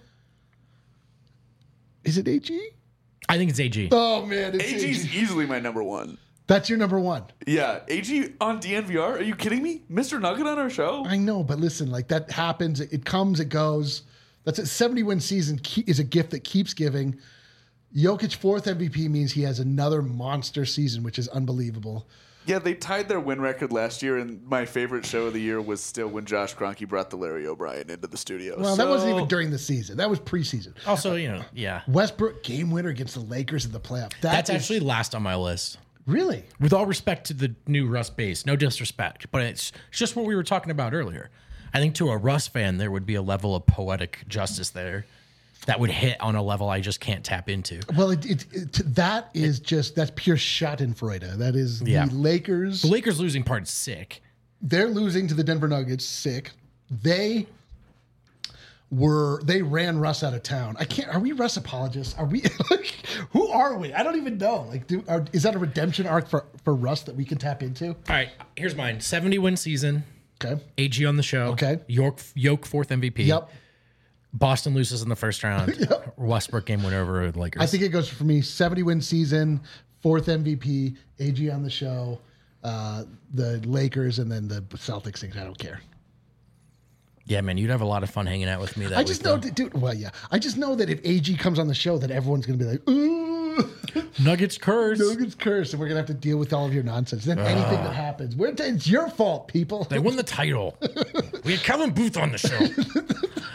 is it A G? I think it's A G. Oh man, it's A G's A G. easily my number one. That's your number one. Yeah, A G on D N V R? Are you kidding me? Mister Nugget on our show? I know, but listen, like that happens. It, it comes, it goes. That's a seventy win season ke- is a gift that keeps giving. Jokic fourth M V P means he has another monster season, which is unbelievable. Yeah, they tied their win record last year, and my favorite show of the year was still when Josh Kroenke brought the Larry O'Brien into the studio. Well, that wasn't So- even during the season. That was preseason. Also, you know, yeah. Westbrook game winner against the Lakers in the playoff. That That's is- actually last on my list. really. With all respect to the new Russ base, no disrespect, but it's it's just what we were talking about earlier. I think to a Russ fan, there would be a level of poetic justice there that would hit on a level I just can't tap into. Well, it, it, it, that is just that's pure Schadenfreude. That is Yeah. the Lakers. The Lakers losing part's sick. They're losing to the Denver Nuggets. Sick. They were they ran Russ out of town. I can't. Are we Russ apologists? Are we? Like, who are we? I don't even know. Like, do, are, is that a redemption arc for for Russ that we can tap into? All right, here's mine: seventy win season. Okay. A G on the show. Okay. York Yoke fourth M V P. Yep. Boston loses in the first round. Westbrook game winner over the Lakers. I think it goes for me seventy win season, fourth M V P, A G on the show, uh, the Lakers, and then the Celtics things. I don't care. Yeah, man, you'd have a lot of fun hanging out with me that I just week, know, though. that, dude. Well, yeah, I just know that if A G comes on the show, that everyone's going to be like, "Ooh, Nuggets curse. Nuggets curse," and we're going to have to deal with all of your nonsense. Then anything that happens, we're, it's your fault, people. They won the title. We had Kevin Booth on the show.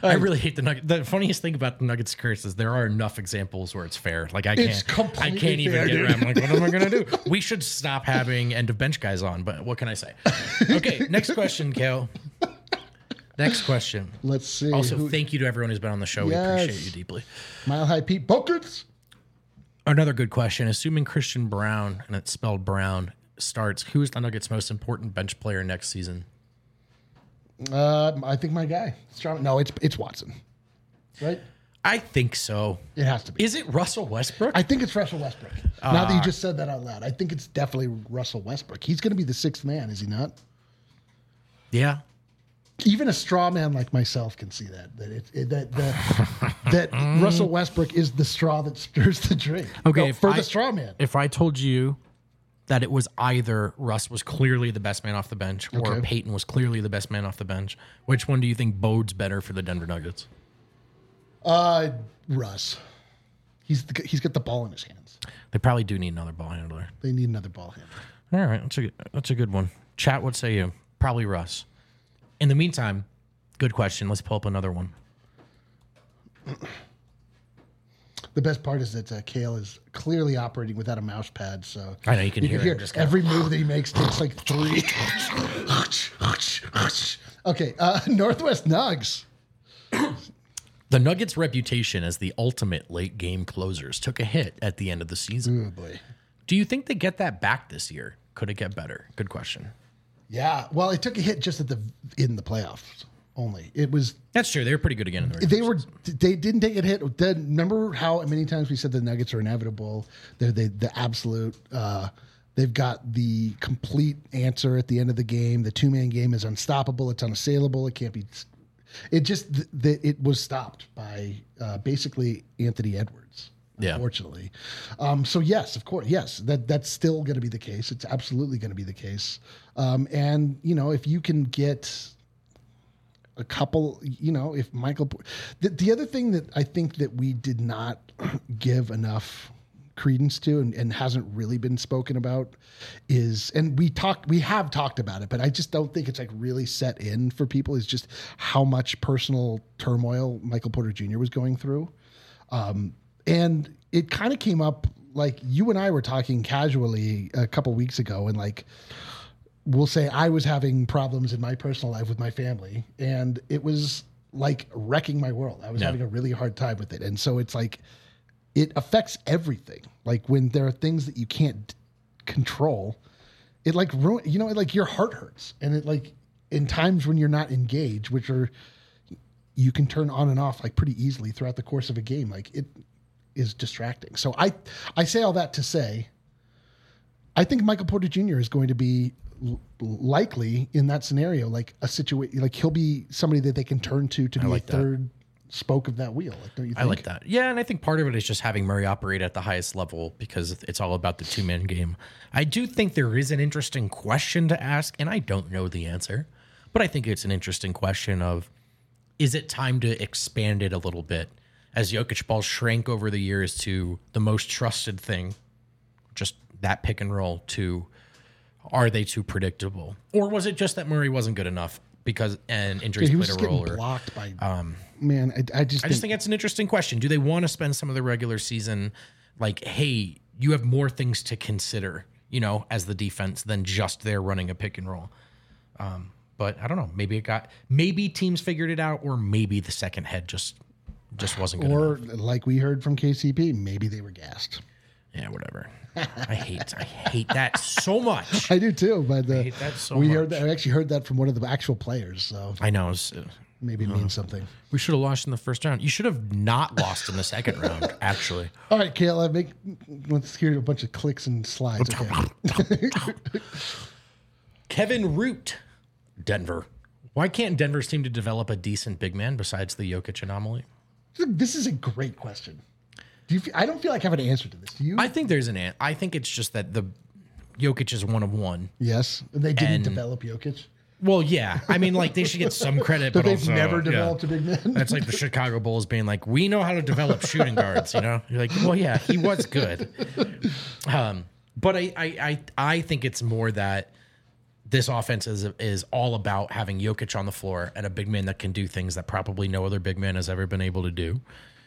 I really hate the Nuggets. The funniest thing about the Nuggets curse is there are enough examples where it's fair. Like I It's can't, I completely can't even fair, get dude. around. I'm like, what am I gonna do? We should stop having end of bench guys on. But what can I say? Okay, next question, Kale. Next question. Let's see. Also, who- thank you to everyone who's been on the show. Yes. We appreciate you deeply. Mile High Pete Bokers. Another good question. Assuming Christian Brown, and it's spelled Brown, starts, who is the Nuggets' most important bench player next season? Uh, I think my guy. Strong. No, it's it's Watson. Right? I think so. It has to be. Is it Russell Westbrook? I think it's Russell Westbrook. now that you Uh, just said that out loud, I think it's definitely Russell Westbrook. He's going to be the sixth man, is he not? yeah. Even a straw man like myself can see that that it, it, that the, that Russell Westbrook is the straw that stirs the drink. Okay, No, if for I- the straw man. If I told you that it was either Russ was clearly the best man off the bench or Okay. Peyton was clearly the best man off the bench, which one do you think bodes better for the Denver Nuggets? Uh, Russ. He's the, he's got the ball in his hands. They probably do need another ball handler. They need another ball handler. All right, that's a good, that's a good one. Chat, what say you? Probably Russ. In the meantime, good question. Let's pull up another one. The best part is that uh, Kale is clearly operating without a mouse pad, so I know, you can hear it just kinda- every move that he makes takes like three. Okay, uh, Northwest Nugs. The Nuggets' reputation as the ultimate late game closers took a hit at the end of the season. Oh boy. Do you think they get that back this year? Could it get better? Good question. Yeah, well, it took a hit just at the in the playoffs only. It was That's true. They were pretty good again in the they regular were season. they didn't take a hit. Then remember how many times we said the Nuggets are inevitable? They're they, the absolute. Uh, they've got the complete answer at the end of the game. The two man game is unstoppable. It's unassailable. It can't be. It just th- th- it was stopped by uh, basically Anthony Edwards. Yeah. Unfortunately, um, so yes, of course, yes, that that's still going to be the case. It's absolutely going to be the case. Um, and you know, if you can get a couple, you know, if Michael, the, the other thing that I think that we did not give enough credence to and, and hasn't really been spoken about is, and we talked, we have talked about it, but I just don't think it's like really set in for people, is just how much personal turmoil Michael Porter Junior was going through. Um, and it kind of came up, like you and I were talking casually a couple weeks ago, and like, we'll say I was having problems in my personal life with my family, and it was like wrecking my world. I was Yeah. having a really hard time with it. And so it's like, it affects everything. Like when there are things that you can't d- control, it like ruin, you know, like your heart hurts. And it like in times when you're not engaged, which are, you can turn on and off like pretty easily throughout the course of a game. Like it is distracting. So I, I say all that to say, I think Michael Porter Junior is going to be l- likely in that scenario, like a situation, like he'll be somebody that they can turn to to be like a that. third spoke of that wheel. Like, don't you think? I like that. Yeah, and I think part of it is just having Murray operate at the highest level because it's all about the two-man game. I do think there is an interesting question to ask, and I don't know the answer, but I think it's an interesting question of, is it time to expand it a little bit as Jokic ball shrank over the years to the most trusted thing, just that pick and roll, to are they too predictable? Or was it just that Murray wasn't good enough because and injuries he was played just a role? getting Or, blocked by. Um, man, I, I just I think, just think that's an interesting question. Do they want to spend some of the regular season like, hey, you have more things to consider, you know, as the defense than just they're running a pick and roll? Um, but I don't know. Maybe it got maybe teams figured it out, or maybe the second head just just wasn't good or enough. like we heard from K C P, maybe they were gassed. Yeah, whatever. I hate I hate that so much. I do too, but uh, hate that so we much. heard that. I actually heard that from one of the actual players, so I know. It's, uh, maybe it means something. we should have lost in the first round. You should have not lost in the second round, actually. All right, Kayla, make let's hear a bunch of clicks and slides. Okay. Kevin Root, Denver. Why can't Denver seem to develop a decent big man besides the Jokic anomaly? This is a great question. Do you? Feel, I don't feel like I have an answer to this. Do you? I think there's an an. I think it's just that the Jokic is one of one. yes, they didn't And- develop Jokic. Well, yeah. I mean, like they should get some credit, But but they've also, never yeah. developed a big man. That's like the Chicago Bulls being like, we know how to develop shooting guards. You know, you're like, well, yeah, he was good. Um, but I, I, I, I think it's more that this offense is is all about having Jokic on the floor and a big man that can do things that probably no other big man has ever been able to do.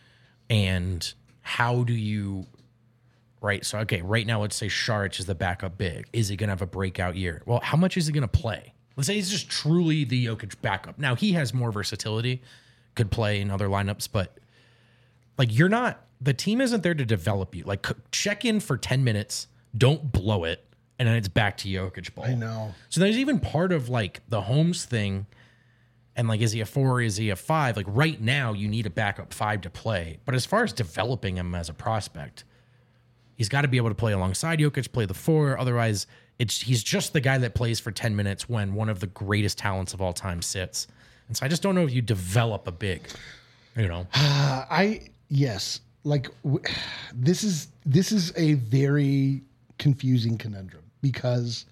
And how do you, right? So, okay, right now, let's say Šarić is the backup big. Is he going to have a breakout year? Well, how much is he going to play? Let's say he's just truly the Jokic backup. Now, he has more versatility, could play in other lineups, but like you're not, the team isn't there to develop you. Like check in for ten minutes, don't blow it, and then it's back to Jokic ball. I know. So there's even part of like the Holmes thing. And like, is he a four? Is he a five? Like right now, you need a backup five to play. But as far as developing him as a prospect, he's got to be able to play alongside Jokic, play the four. Otherwise, it's he's just the guy that plays for ten minutes when one of the greatest talents of all time sits. And so I just don't know if you develop a big, you know. Uh, I yes, like w- this is this is a very confusing conundrum because,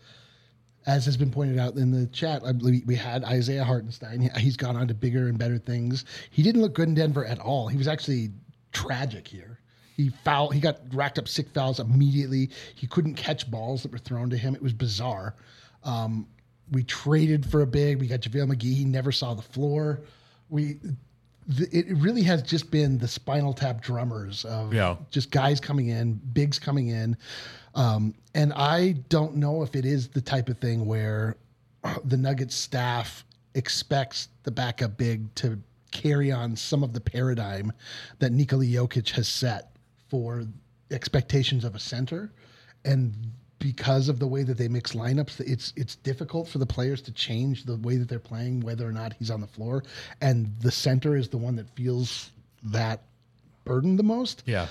as has been pointed out in the chat, I believe we had Isaiah Hartenstein. He's gone on to bigger and better things. He didn't look good in Denver at all. He was actually tragic here. He foul. He got racked up six fouls immediately. He couldn't catch balls that were thrown to him. It was bizarre. Um, we traded for a big. We got JaVale McGee. He never saw the floor. We. The, it really has just been the Spinal Tap drummers of Yeah. just guys coming in, bigs coming in. Um, and I don't know if it is the type of thing where the Nuggets staff expects the backup big to carry on some of the paradigm that Nikola Jokic has set for expectations of a center. And because of the way that they mix lineups, it's it's difficult for the players to change the way that they're playing, whether or not he's on the floor. And the center is the one that feels that burden the most. Yeah.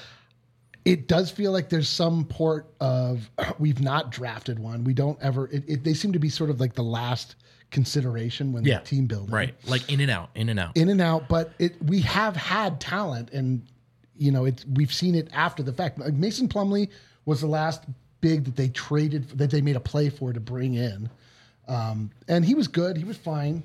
It does feel like there's some port of we've not drafted one. We don't ever. It, it, they seem to be sort of like the last consideration when Yeah. the team building, Right. Like in and out, in and out. in and out. But it we have had talent, and you know it's we've seen it after the fact. Like Mason Plumlee was the last big that they traded that they made a play for to bring in, um, and he was good. He was fine.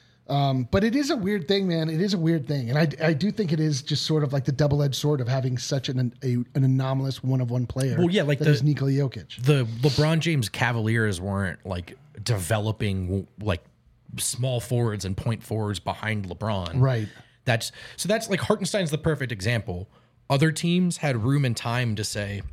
Um, but it is a weird thing, man. It is a weird thing. And I, I do think it is just sort of like the double-edged sword of having such an a, an anomalous one-of-one player. Well, yeah, like that the- is Nikola Jokic. The LeBron James Cavaliers weren't like developing like small forwards and point forwards behind LeBron. Right. That's so that's like Hartenstein's the perfect example. Other teams had room and time to say,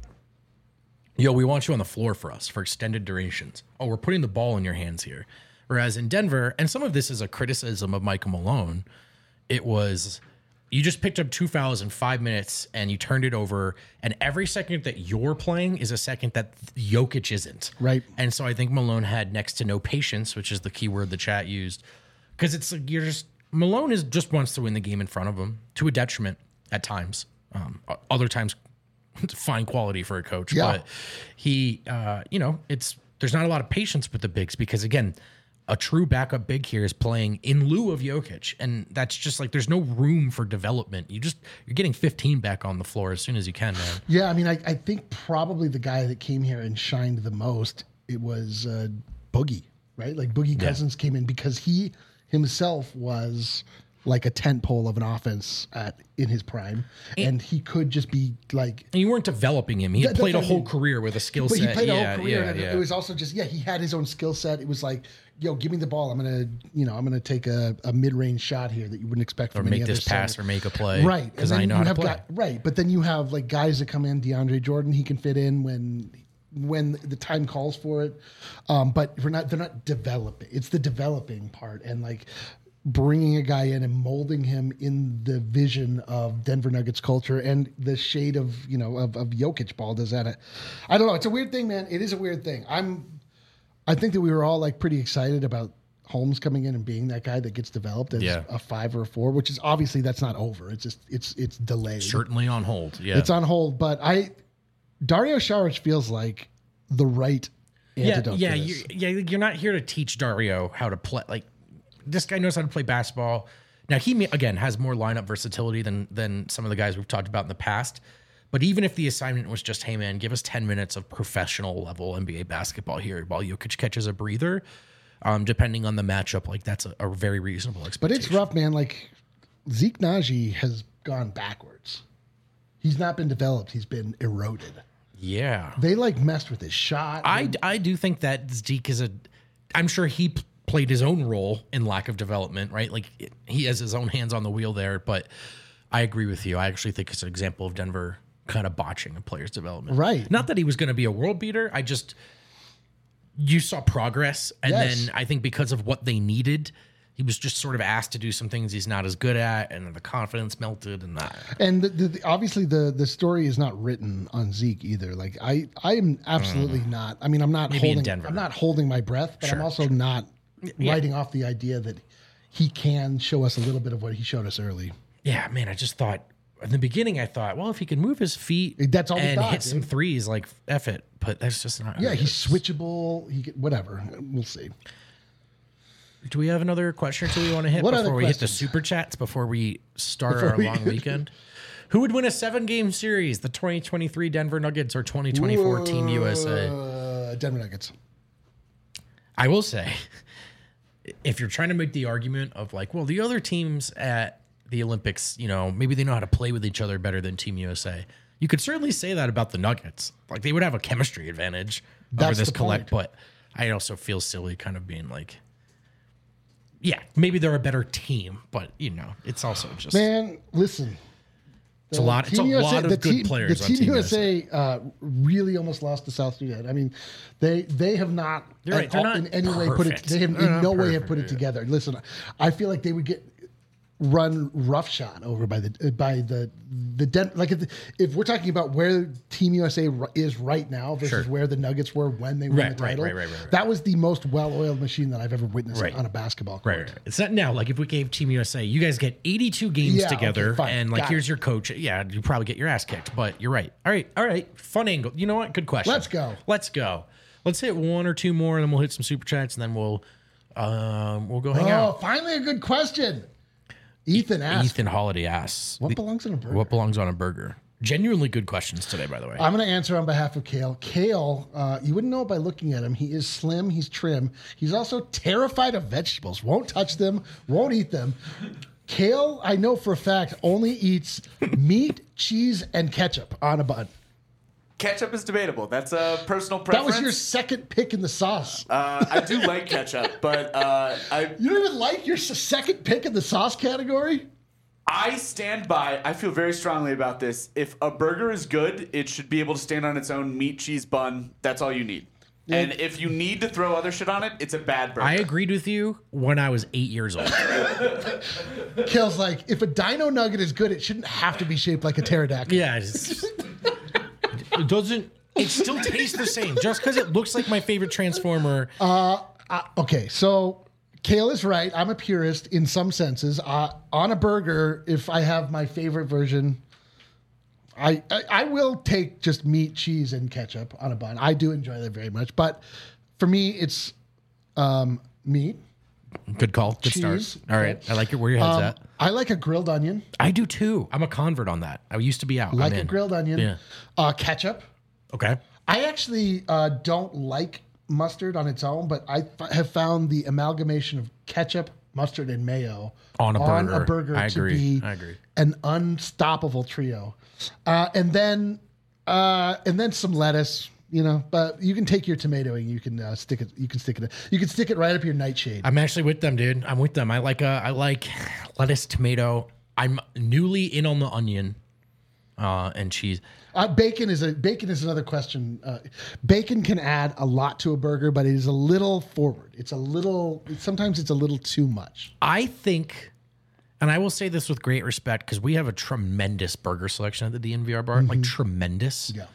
yo, we want you on the floor for us for extended durations. Oh, we're putting the ball in your hands here. Whereas in Denver, and some of this is a criticism of Michael Malone, it was you just picked up two fouls in five minutes and you turned it over. And every second that you're playing is a second that Jokic isn't. Right. And so I think Malone had next to no patience, which is the key word the chat used. Because it's like you're just, Malone is just wants to win the game in front of him to a detriment at times. Um, other times, fine quality for a coach. Yeah. But he, uh, you know, it's, there's not a lot of patience with the bigs because, again, a true backup big here is playing in lieu of Jokic. And that's just like, there's no room for development. You just, you're getting fifteen back on the floor as soon as you can, man. Yeah, I mean, I, I think probably the guy that came here and shined the most, it was uh, Boogie, right? Like Boogie Cousins came in because he himself was like a tent pole of an offense at in his prime. And, and he could just be like... And you weren't developing him. He had That- played a that's what I whole mean. career with a skill But set. he played a yeah, whole career, yeah, and yeah. it was also just yeah. He had his own skill set. It was like, yo, give me the ball. I'm gonna, you know, I'm gonna take a, a mid range shot here that you wouldn't expect or from any make other this pass center. or make a play. Right, Because and I then know you how to have play. got- right, but then you have like guys that come in. DeAndre Jordan, he can fit in when when the time calls for it. Um, but we're not. They're not developing. It's the developing part, and like bringing a guy in and molding him in the vision of Denver Nuggets culture and the shade of you know of, of Jokic ball. Does that? I don't know. It's a weird thing, man. It is a weird thing. I'm. I think that we were all like pretty excited about Holmes coming in and being that guy that gets developed as Yeah. a five or a four, which is obviously that's not over. It's just it's it's delayed. Certainly on hold. Yeah. It's on hold, but I Dario Saric feels like the right yeah, antidote. yeah, for you, this. yeah. You're not here to teach Dario how to play. Like this guy knows how to play basketball. Now he may- again has more lineup versatility than than some of the guys we've talked about in the past. But even if the assignment was just, hey man, give us ten minutes of professional level N B A basketball here while Jokic catches a breather, um, depending on the matchup, like that's a, a very reasonable But expectation. it's rough, man. Like Zeke Naji has gone backwards. He's not been developed. He's been eroded. Yeah. They like messed with his shot. I, I do think that Zeke is a I'm sure he p- played his own role in lack of development, right? Like it, he has his own hands on the wheel there. But I agree with you. I actually think it's an example of Denver kind of botching a player's development. Right. Not that he was going to be a world beater. I just, you saw progress. And Yes. then I think because of what they needed, he was just sort of asked to do some things he's not as good at. And the confidence melted and that. And the, the, the- obviously, the the story is not written on Zeke either. Like I, I am absolutely not. I mean, I'm not Mm. Maybe in holding. Denver. I'm not holding my breath, but I'm Sure, also not writing off the idea that he can show us a little bit of what he showed us early. Yeah, man, I just thought in the beginning, I thought, well, if he can move his feet That's all we and thought, hit some dude. threes, like F it. But that's just not. Yeah, how it he's is. switchable. He can, whatever. We'll see. Do we have another question or two we want to hit What before other we hit the questions? super chats before we start Before our we- long weekend? Who would win a seven game series, the twenty twenty-three Denver Nuggets or twenty twenty-four Team U S A? Uh, Denver Nuggets. I will say, if you're trying to make the argument of like, well, the other teams at the Olympics, you know, maybe they know how to play with each other better than Team U S A. You could certainly say that about the Nuggets. Like they would have a chemistry advantage over That's this the collect, point. but I also feel silly kind of being like, yeah, maybe they're a better team, but you know, it's also just Man, listen. it's a lot. It's a Team U S A lot of the good team, players. The on Team, Team U S A, uh, really almost lost to South Sudan. I mean, they they have not, You're right, at they're all- not in any way put it. perfect. They have They're in not no way have perfect, put it yeah. together. Listen, I feel like they would get run roughshod over by the by the the Den- like if, if we're talking about where Team U S A ri- is right now versus Sure. where the Nuggets were when they won Right, the right, title. right, right, right, right. That was the most well-oiled machine that I've ever witnessed Right. on a basketball court. Right, right. It's not now. Like if we gave Team U S A, you guys get eighty-two games Yeah, okay, together, fine. and like Got here's it. your coach. Yeah, you probably get your ass kicked, but you're right. All right, all right. Fun angle. You know what? Good question. Let's go. Let's go. Let's hit one or two more, and then we'll hit some super chats, and then we'll um we'll go hang Oh, out. finally a good question. Ethan asked, Ethan Holiday asks, "What belongs in a burger?" "What belongs on a burger?" Genuinely good questions today, by the way. I'm going to answer on behalf of Kale. Kale, uh, you wouldn't know it by looking at him. He is slim. He's trim. He's also terrified of vegetables. Won't touch them. Won't eat them. Kale, I know for a fact, only eats meat, cheese, and ketchup on a bun. Ketchup is debatable. That's a personal That preference. was your second pick in the sauce. Uh, I do like ketchup, but uh, I You don't even like your s- second pick in the sauce category? I stand by. I feel very strongly about this. If a burger is good, it should be able to stand on its own meat, cheese, bun. That's all you need. And if you need to throw other shit on it, it's a bad burger. I agreed with you when I was eight years old. Kale's like, if a dino nugget is good, it shouldn't have to be shaped like a pterodactyl. Yeah, it's, it doesn't. It still tastes the same just because it looks like my favorite Transformer. Uh, okay, so Kale is right. I'm a purist in some senses. Uh, on a burger, if I have my favorite version, I, I I will take just meat, cheese, and ketchup on a bun. I do enjoy that very much. But for me, it's um, meat. Good call. Good Cheese. start. All right, I like it. Where your head's Um, at. I like a grilled onion. I do too. I'm a convert on that. I used to be out. Like I'm a in. grilled onion. Yeah. Uh, ketchup. Okay. I actually uh, don't like mustard on its own, but I f- have found the amalgamation of ketchup, mustard, and mayo On a burger. a burger I to agree. be I agree. an unstoppable trio. Uh, and then uh, and then some lettuce, you know. But you can take your tomato and you can uh, stick it. You can stick it. You can stick it right up your nightshade. I'm actually with them, dude. I'm with them. I like uh, I like lettuce, tomato. I'm newly in on the onion, uh, and cheese. Uh, bacon is a bacon is another question. Uh, bacon can add a lot to a burger, but it is a little forward. It's a little. Sometimes it's a little too much. I think, and I will say this with great respect because we have a tremendous burger selection at the D N V R bar, like tremendous. Yeah.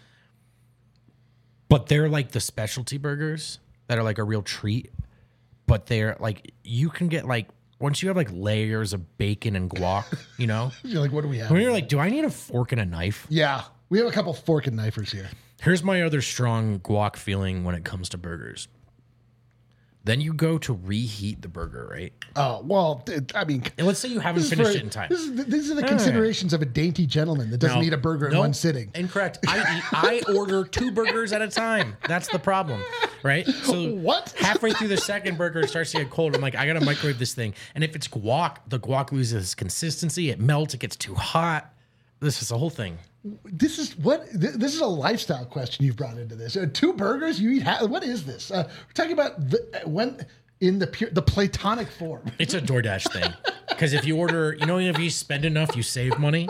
But they're like the specialty burgers that are like a real treat. But they're like you can get like once you have like layers of bacon and guac, you know. You're like, what do we have? When you're like, do I need a fork and a knife? Yeah, we have a couple fork and knifers here. Here's my other strong guac feeling when it comes to burgers. Then you go to reheat the burger, right? Oh well, th- I mean, And let's say you haven't this is finished for- it in time. This is, these are the considerations of a dainty gentleman that doesn't No. eat a burger in Nope. one sitting. Incorrect. I eat, I order two burgers at a time. That's the problem, right? So What? halfway through the second burger, it starts to get cold. I'm like, I gotta microwave this thing. And if it's guac, the guac loses consistency. It melts. It gets too hot. This is the whole thing. This is what th- this is a lifestyle question you've brought into this. Uh, two burgers you eat. Ha- what is this? Uh, we're talking about the, uh, when in the pure the platonic form. It's a DoorDash thing. Because if you order, you know, if you spend enough, you save money.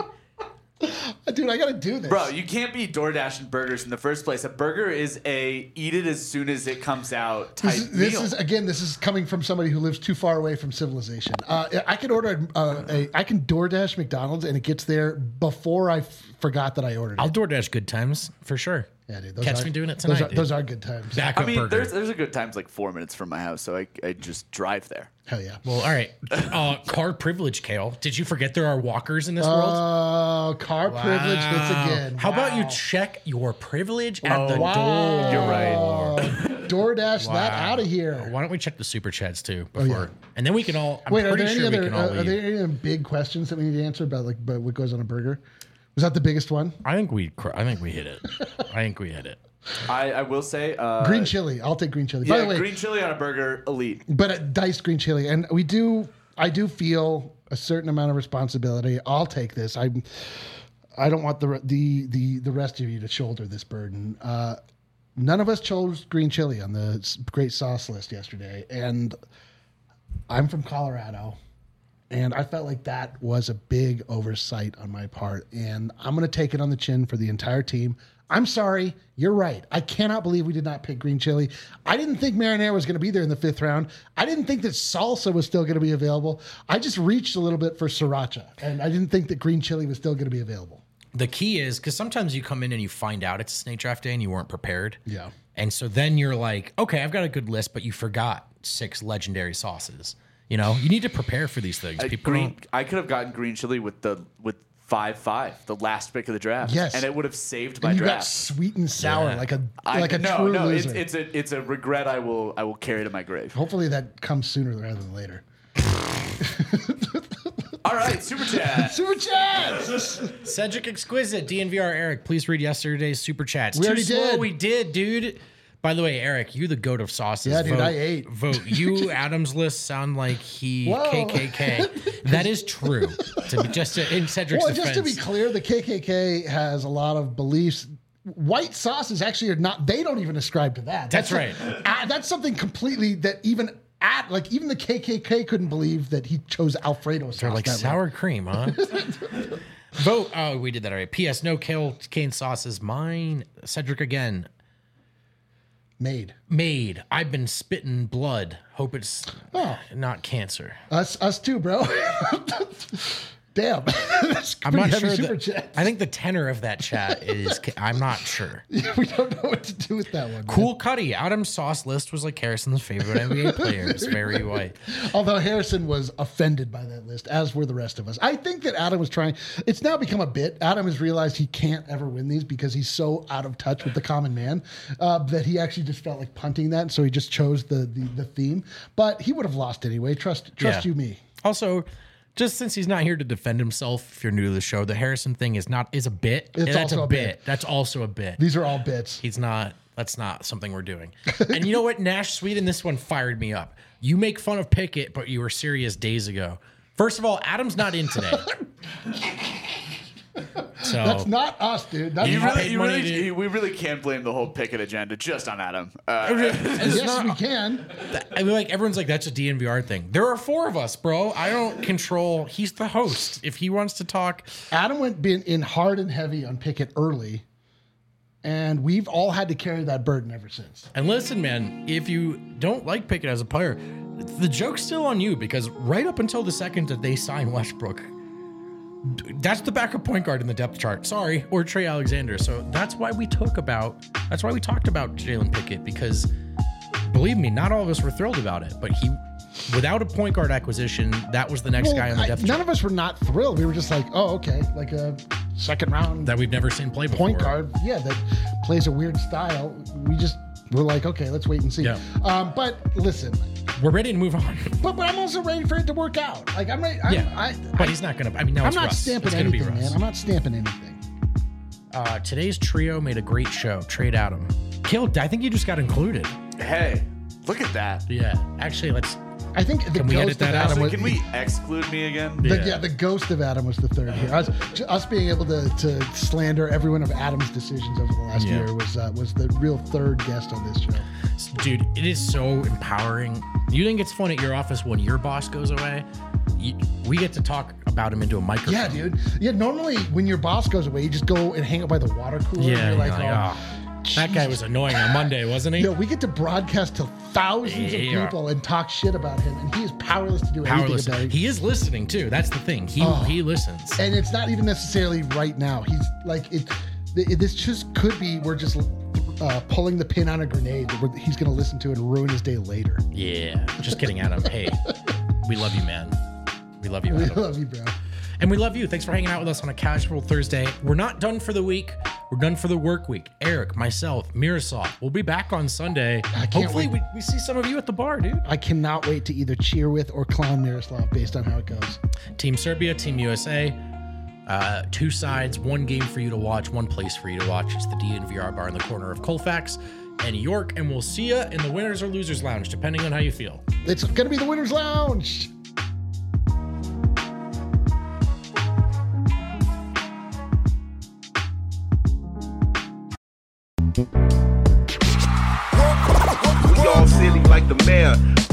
Dude, I gotta do this, Bro, you can't be DoorDashing burgers in the first place. A burger is a eat it as soon as it comes out type This is, this meal. is again. This is coming from somebody who lives too far away from civilization. Uh, I can order uh, a. I can DoorDash McDonald's and it gets there before I f- forgot that I ordered I'll it. DoorDash good times for sure. Yeah, dude. Those Catch are, me doing it those tonight, are, dude. those are good times. Backup I mean, burger. there's there's a good times like four minutes from my house, so I, I just drive there. Hell yeah. Well, all right. Uh, car privilege, Kale. Did you forget there are walkers in this world? Oh, car privilege hits again. How about you Wow. check your privilege at the Wow. door? You're right. Oh, DoorDash that out of here. Why don't we check the super chats too before, yeah. and then we can all. I'm Wait, are pretty there any sure we other can all uh, are leave. there any other big questions that we need to answer about like about what goes on a burger? Was that the biggest one? I think we. cr- I think we hit it. I think we hit it. I, I will say uh, Green chili. I'll take green chili. Yeah, By the way, green chili on a burger, elite. but a diced green chili, and we do. I do feel a certain amount of responsibility. I'll take this. I. I don't want the the the the rest of you to shoulder this burden. Uh, none of us chose green chili on the s- great sauce list yesterday, and I'm from Colorado, and I felt like that was a big oversight on my part, and I'm going to take it on the chin for the entire team. I'm sorry. You're right. I cannot believe we did not pick green chili. I didn't think marinara was going to be there in the fifth round. I didn't think that salsa was still going to be available. I just reached a little bit for sriracha, and I didn't think that green chili was still going to be available. The key is because sometimes you come in and you find out it's a snake draft day and you weren't prepared. Yeah. And so then you're like, okay, I've got a good list, but you forgot six legendary sauces. You know, you need to prepare for these things. Uh, People green, don't. I could have gotten green chili with the with five five, the last pick of the draft. Yes. and it would have saved my And you got draft. sweet and sour, Yeah. like a I, like a no, true no, loser. it's it's a it's a regret I will I will carry to my grave. Hopefully that comes sooner rather than later. All right, super chat. Super chats. Cedric Exquisite, D N V R Eric, please read yesterday's super chats. We Too already slow, did. we did, dude. By the way, Eric, you're the goat of sauces. Yeah, dude, vote, I ate. Vote. You, Adam's list sound like he Whoa. K K K. That is true. To be just to, in Cedric's Well, defense. just to be clear, the K K K has a lot of beliefs. White sauces actually are not. They don't even ascribe to that. That's a- right. uh, that's something completely that even at like even the K K K couldn't believe that he chose Alfredo sauce. They're like that way. sour cream, huh? Vote. Oh, we did that already. P S. No kale cane sauces. Mine. Cedric again. Made Made. I've been spitting blood. Hope it's Oh. not cancer. us us too, bro. Damn, that's I'm pretty not heavy sure. super That, chat. I think the tenor of that chat is. I'm not sure. We don't know what to do with that one. man. Cool Cuddy. Adam's sauce list was like Harrison's favorite N B A players. Very white. Although Harrison was offended by that list, as were the rest of us. I think that Adam was trying. It's now become a bit. Adam has realized he can't ever win these because he's so out of touch with the common man uh, that he actually just felt like punting that. So he just chose the the, the theme. But he would have lost anyway. Trust trust Yeah. you me. Also, just since he's not here to defend himself, if you're new to the show, the Harrison thing is not is a bit. It's That's also a a bit. bit. That's also a bit. These are all bits. He's not. That's not something we're doing. And you know what, Nash Sweden, this one fired me up. You make fun of Pickett, but you were serious days ago. First of all, Adam's not in today. So That's not us, dude. That's You You not- really, paid you money really, to- we really can't blame the whole Pickett agenda just on Adam. Uh, it's yes, not- we can. I mean, like everyone's like, that's a D N V R thing. There are four of us, bro. I don't control. He's the host. If he wants to talk, Adam went been in hard and heavy on Pickett early, and we've all had to carry that burden ever since. and listen, man, if you don't like Pickett as a player, the joke's still on you because right up until the second that they sign Westbrook, that's the backup point guard in the depth chart. Sorry, or Trey Alexander. So that's why we talk about. That's why we talked about Jalen Pickett because, believe me, not all of us were thrilled about it. But he, without a point guard acquisition, that was the next Well, guy on the I- depth none chart of us were not thrilled. We were just like, oh, okay, like a second round that we've never seen play before. point guard, yeah, that plays a weird style. We just we're like, okay, let's wait and see. Yeah. Um, but listen, We're ready to move on. but, but I'm also ready for it to work out. Like I'm ready. I'm, Yeah, I, but I, he's not gonna. I mean, now I'm it's not Russ. stamping It's gonna be anything, Russ. man. I'm not stamping anything. Uh, today's trio made a great show. Trade Adam. Killed. I think you just got included. hey, look at that. Yeah. Actually, let's. I think the Can we ghost edit that of out? Adam Actually, was, can we exclude me again? The, Yeah. yeah, the ghost of Adam was the third here. Us, us being able to, to slander every one of Adam's decisions over the last Yeah. year was uh, was the real third guest on this show. Dude, it is so empowering. You think it's fun at your office when your boss goes away? You, we get to talk about him into a microphone. Yeah, dude. Yeah, normally when your boss goes away, you just go and hang out by the water cooler. Yeah, and you're like, you're like, oh, That guy was annoying on Monday, wasn't he? No, we get to broadcast to thousands Yeah. of people and talk shit about him, and he is powerless to do Powerless. anything about it. He is listening too. That's the thing. He Oh. he listens. And it's not even necessarily right now. He's like it. it this just could be we're just uh, pulling the pin on a grenade that we're, he's going to listen to and ruin his day later. Yeah. Just kidding, Adam. Hey, we love you, man. We love you, We Adam. love you, bro. And we love you. Thanks for hanging out with us on a casual Thursday. We're not done for the week. We're done for the work week. Eric, myself, Miroslav. We'll be back on Sunday. I can't Hopefully, wait. we, we see some of you at the bar, dude. I cannot wait to either cheer with or clown Miroslav based on how it goes. Team Serbia, Team U S A. Uh, two sides, one game for you to watch, one place for you to watch. It's the D N V R bar in the corner of Colfax and York. And we'll see you in the Winners or Losers Lounge, depending on how you feel. It's going to be the Winners Lounge. We all silly like the mayor.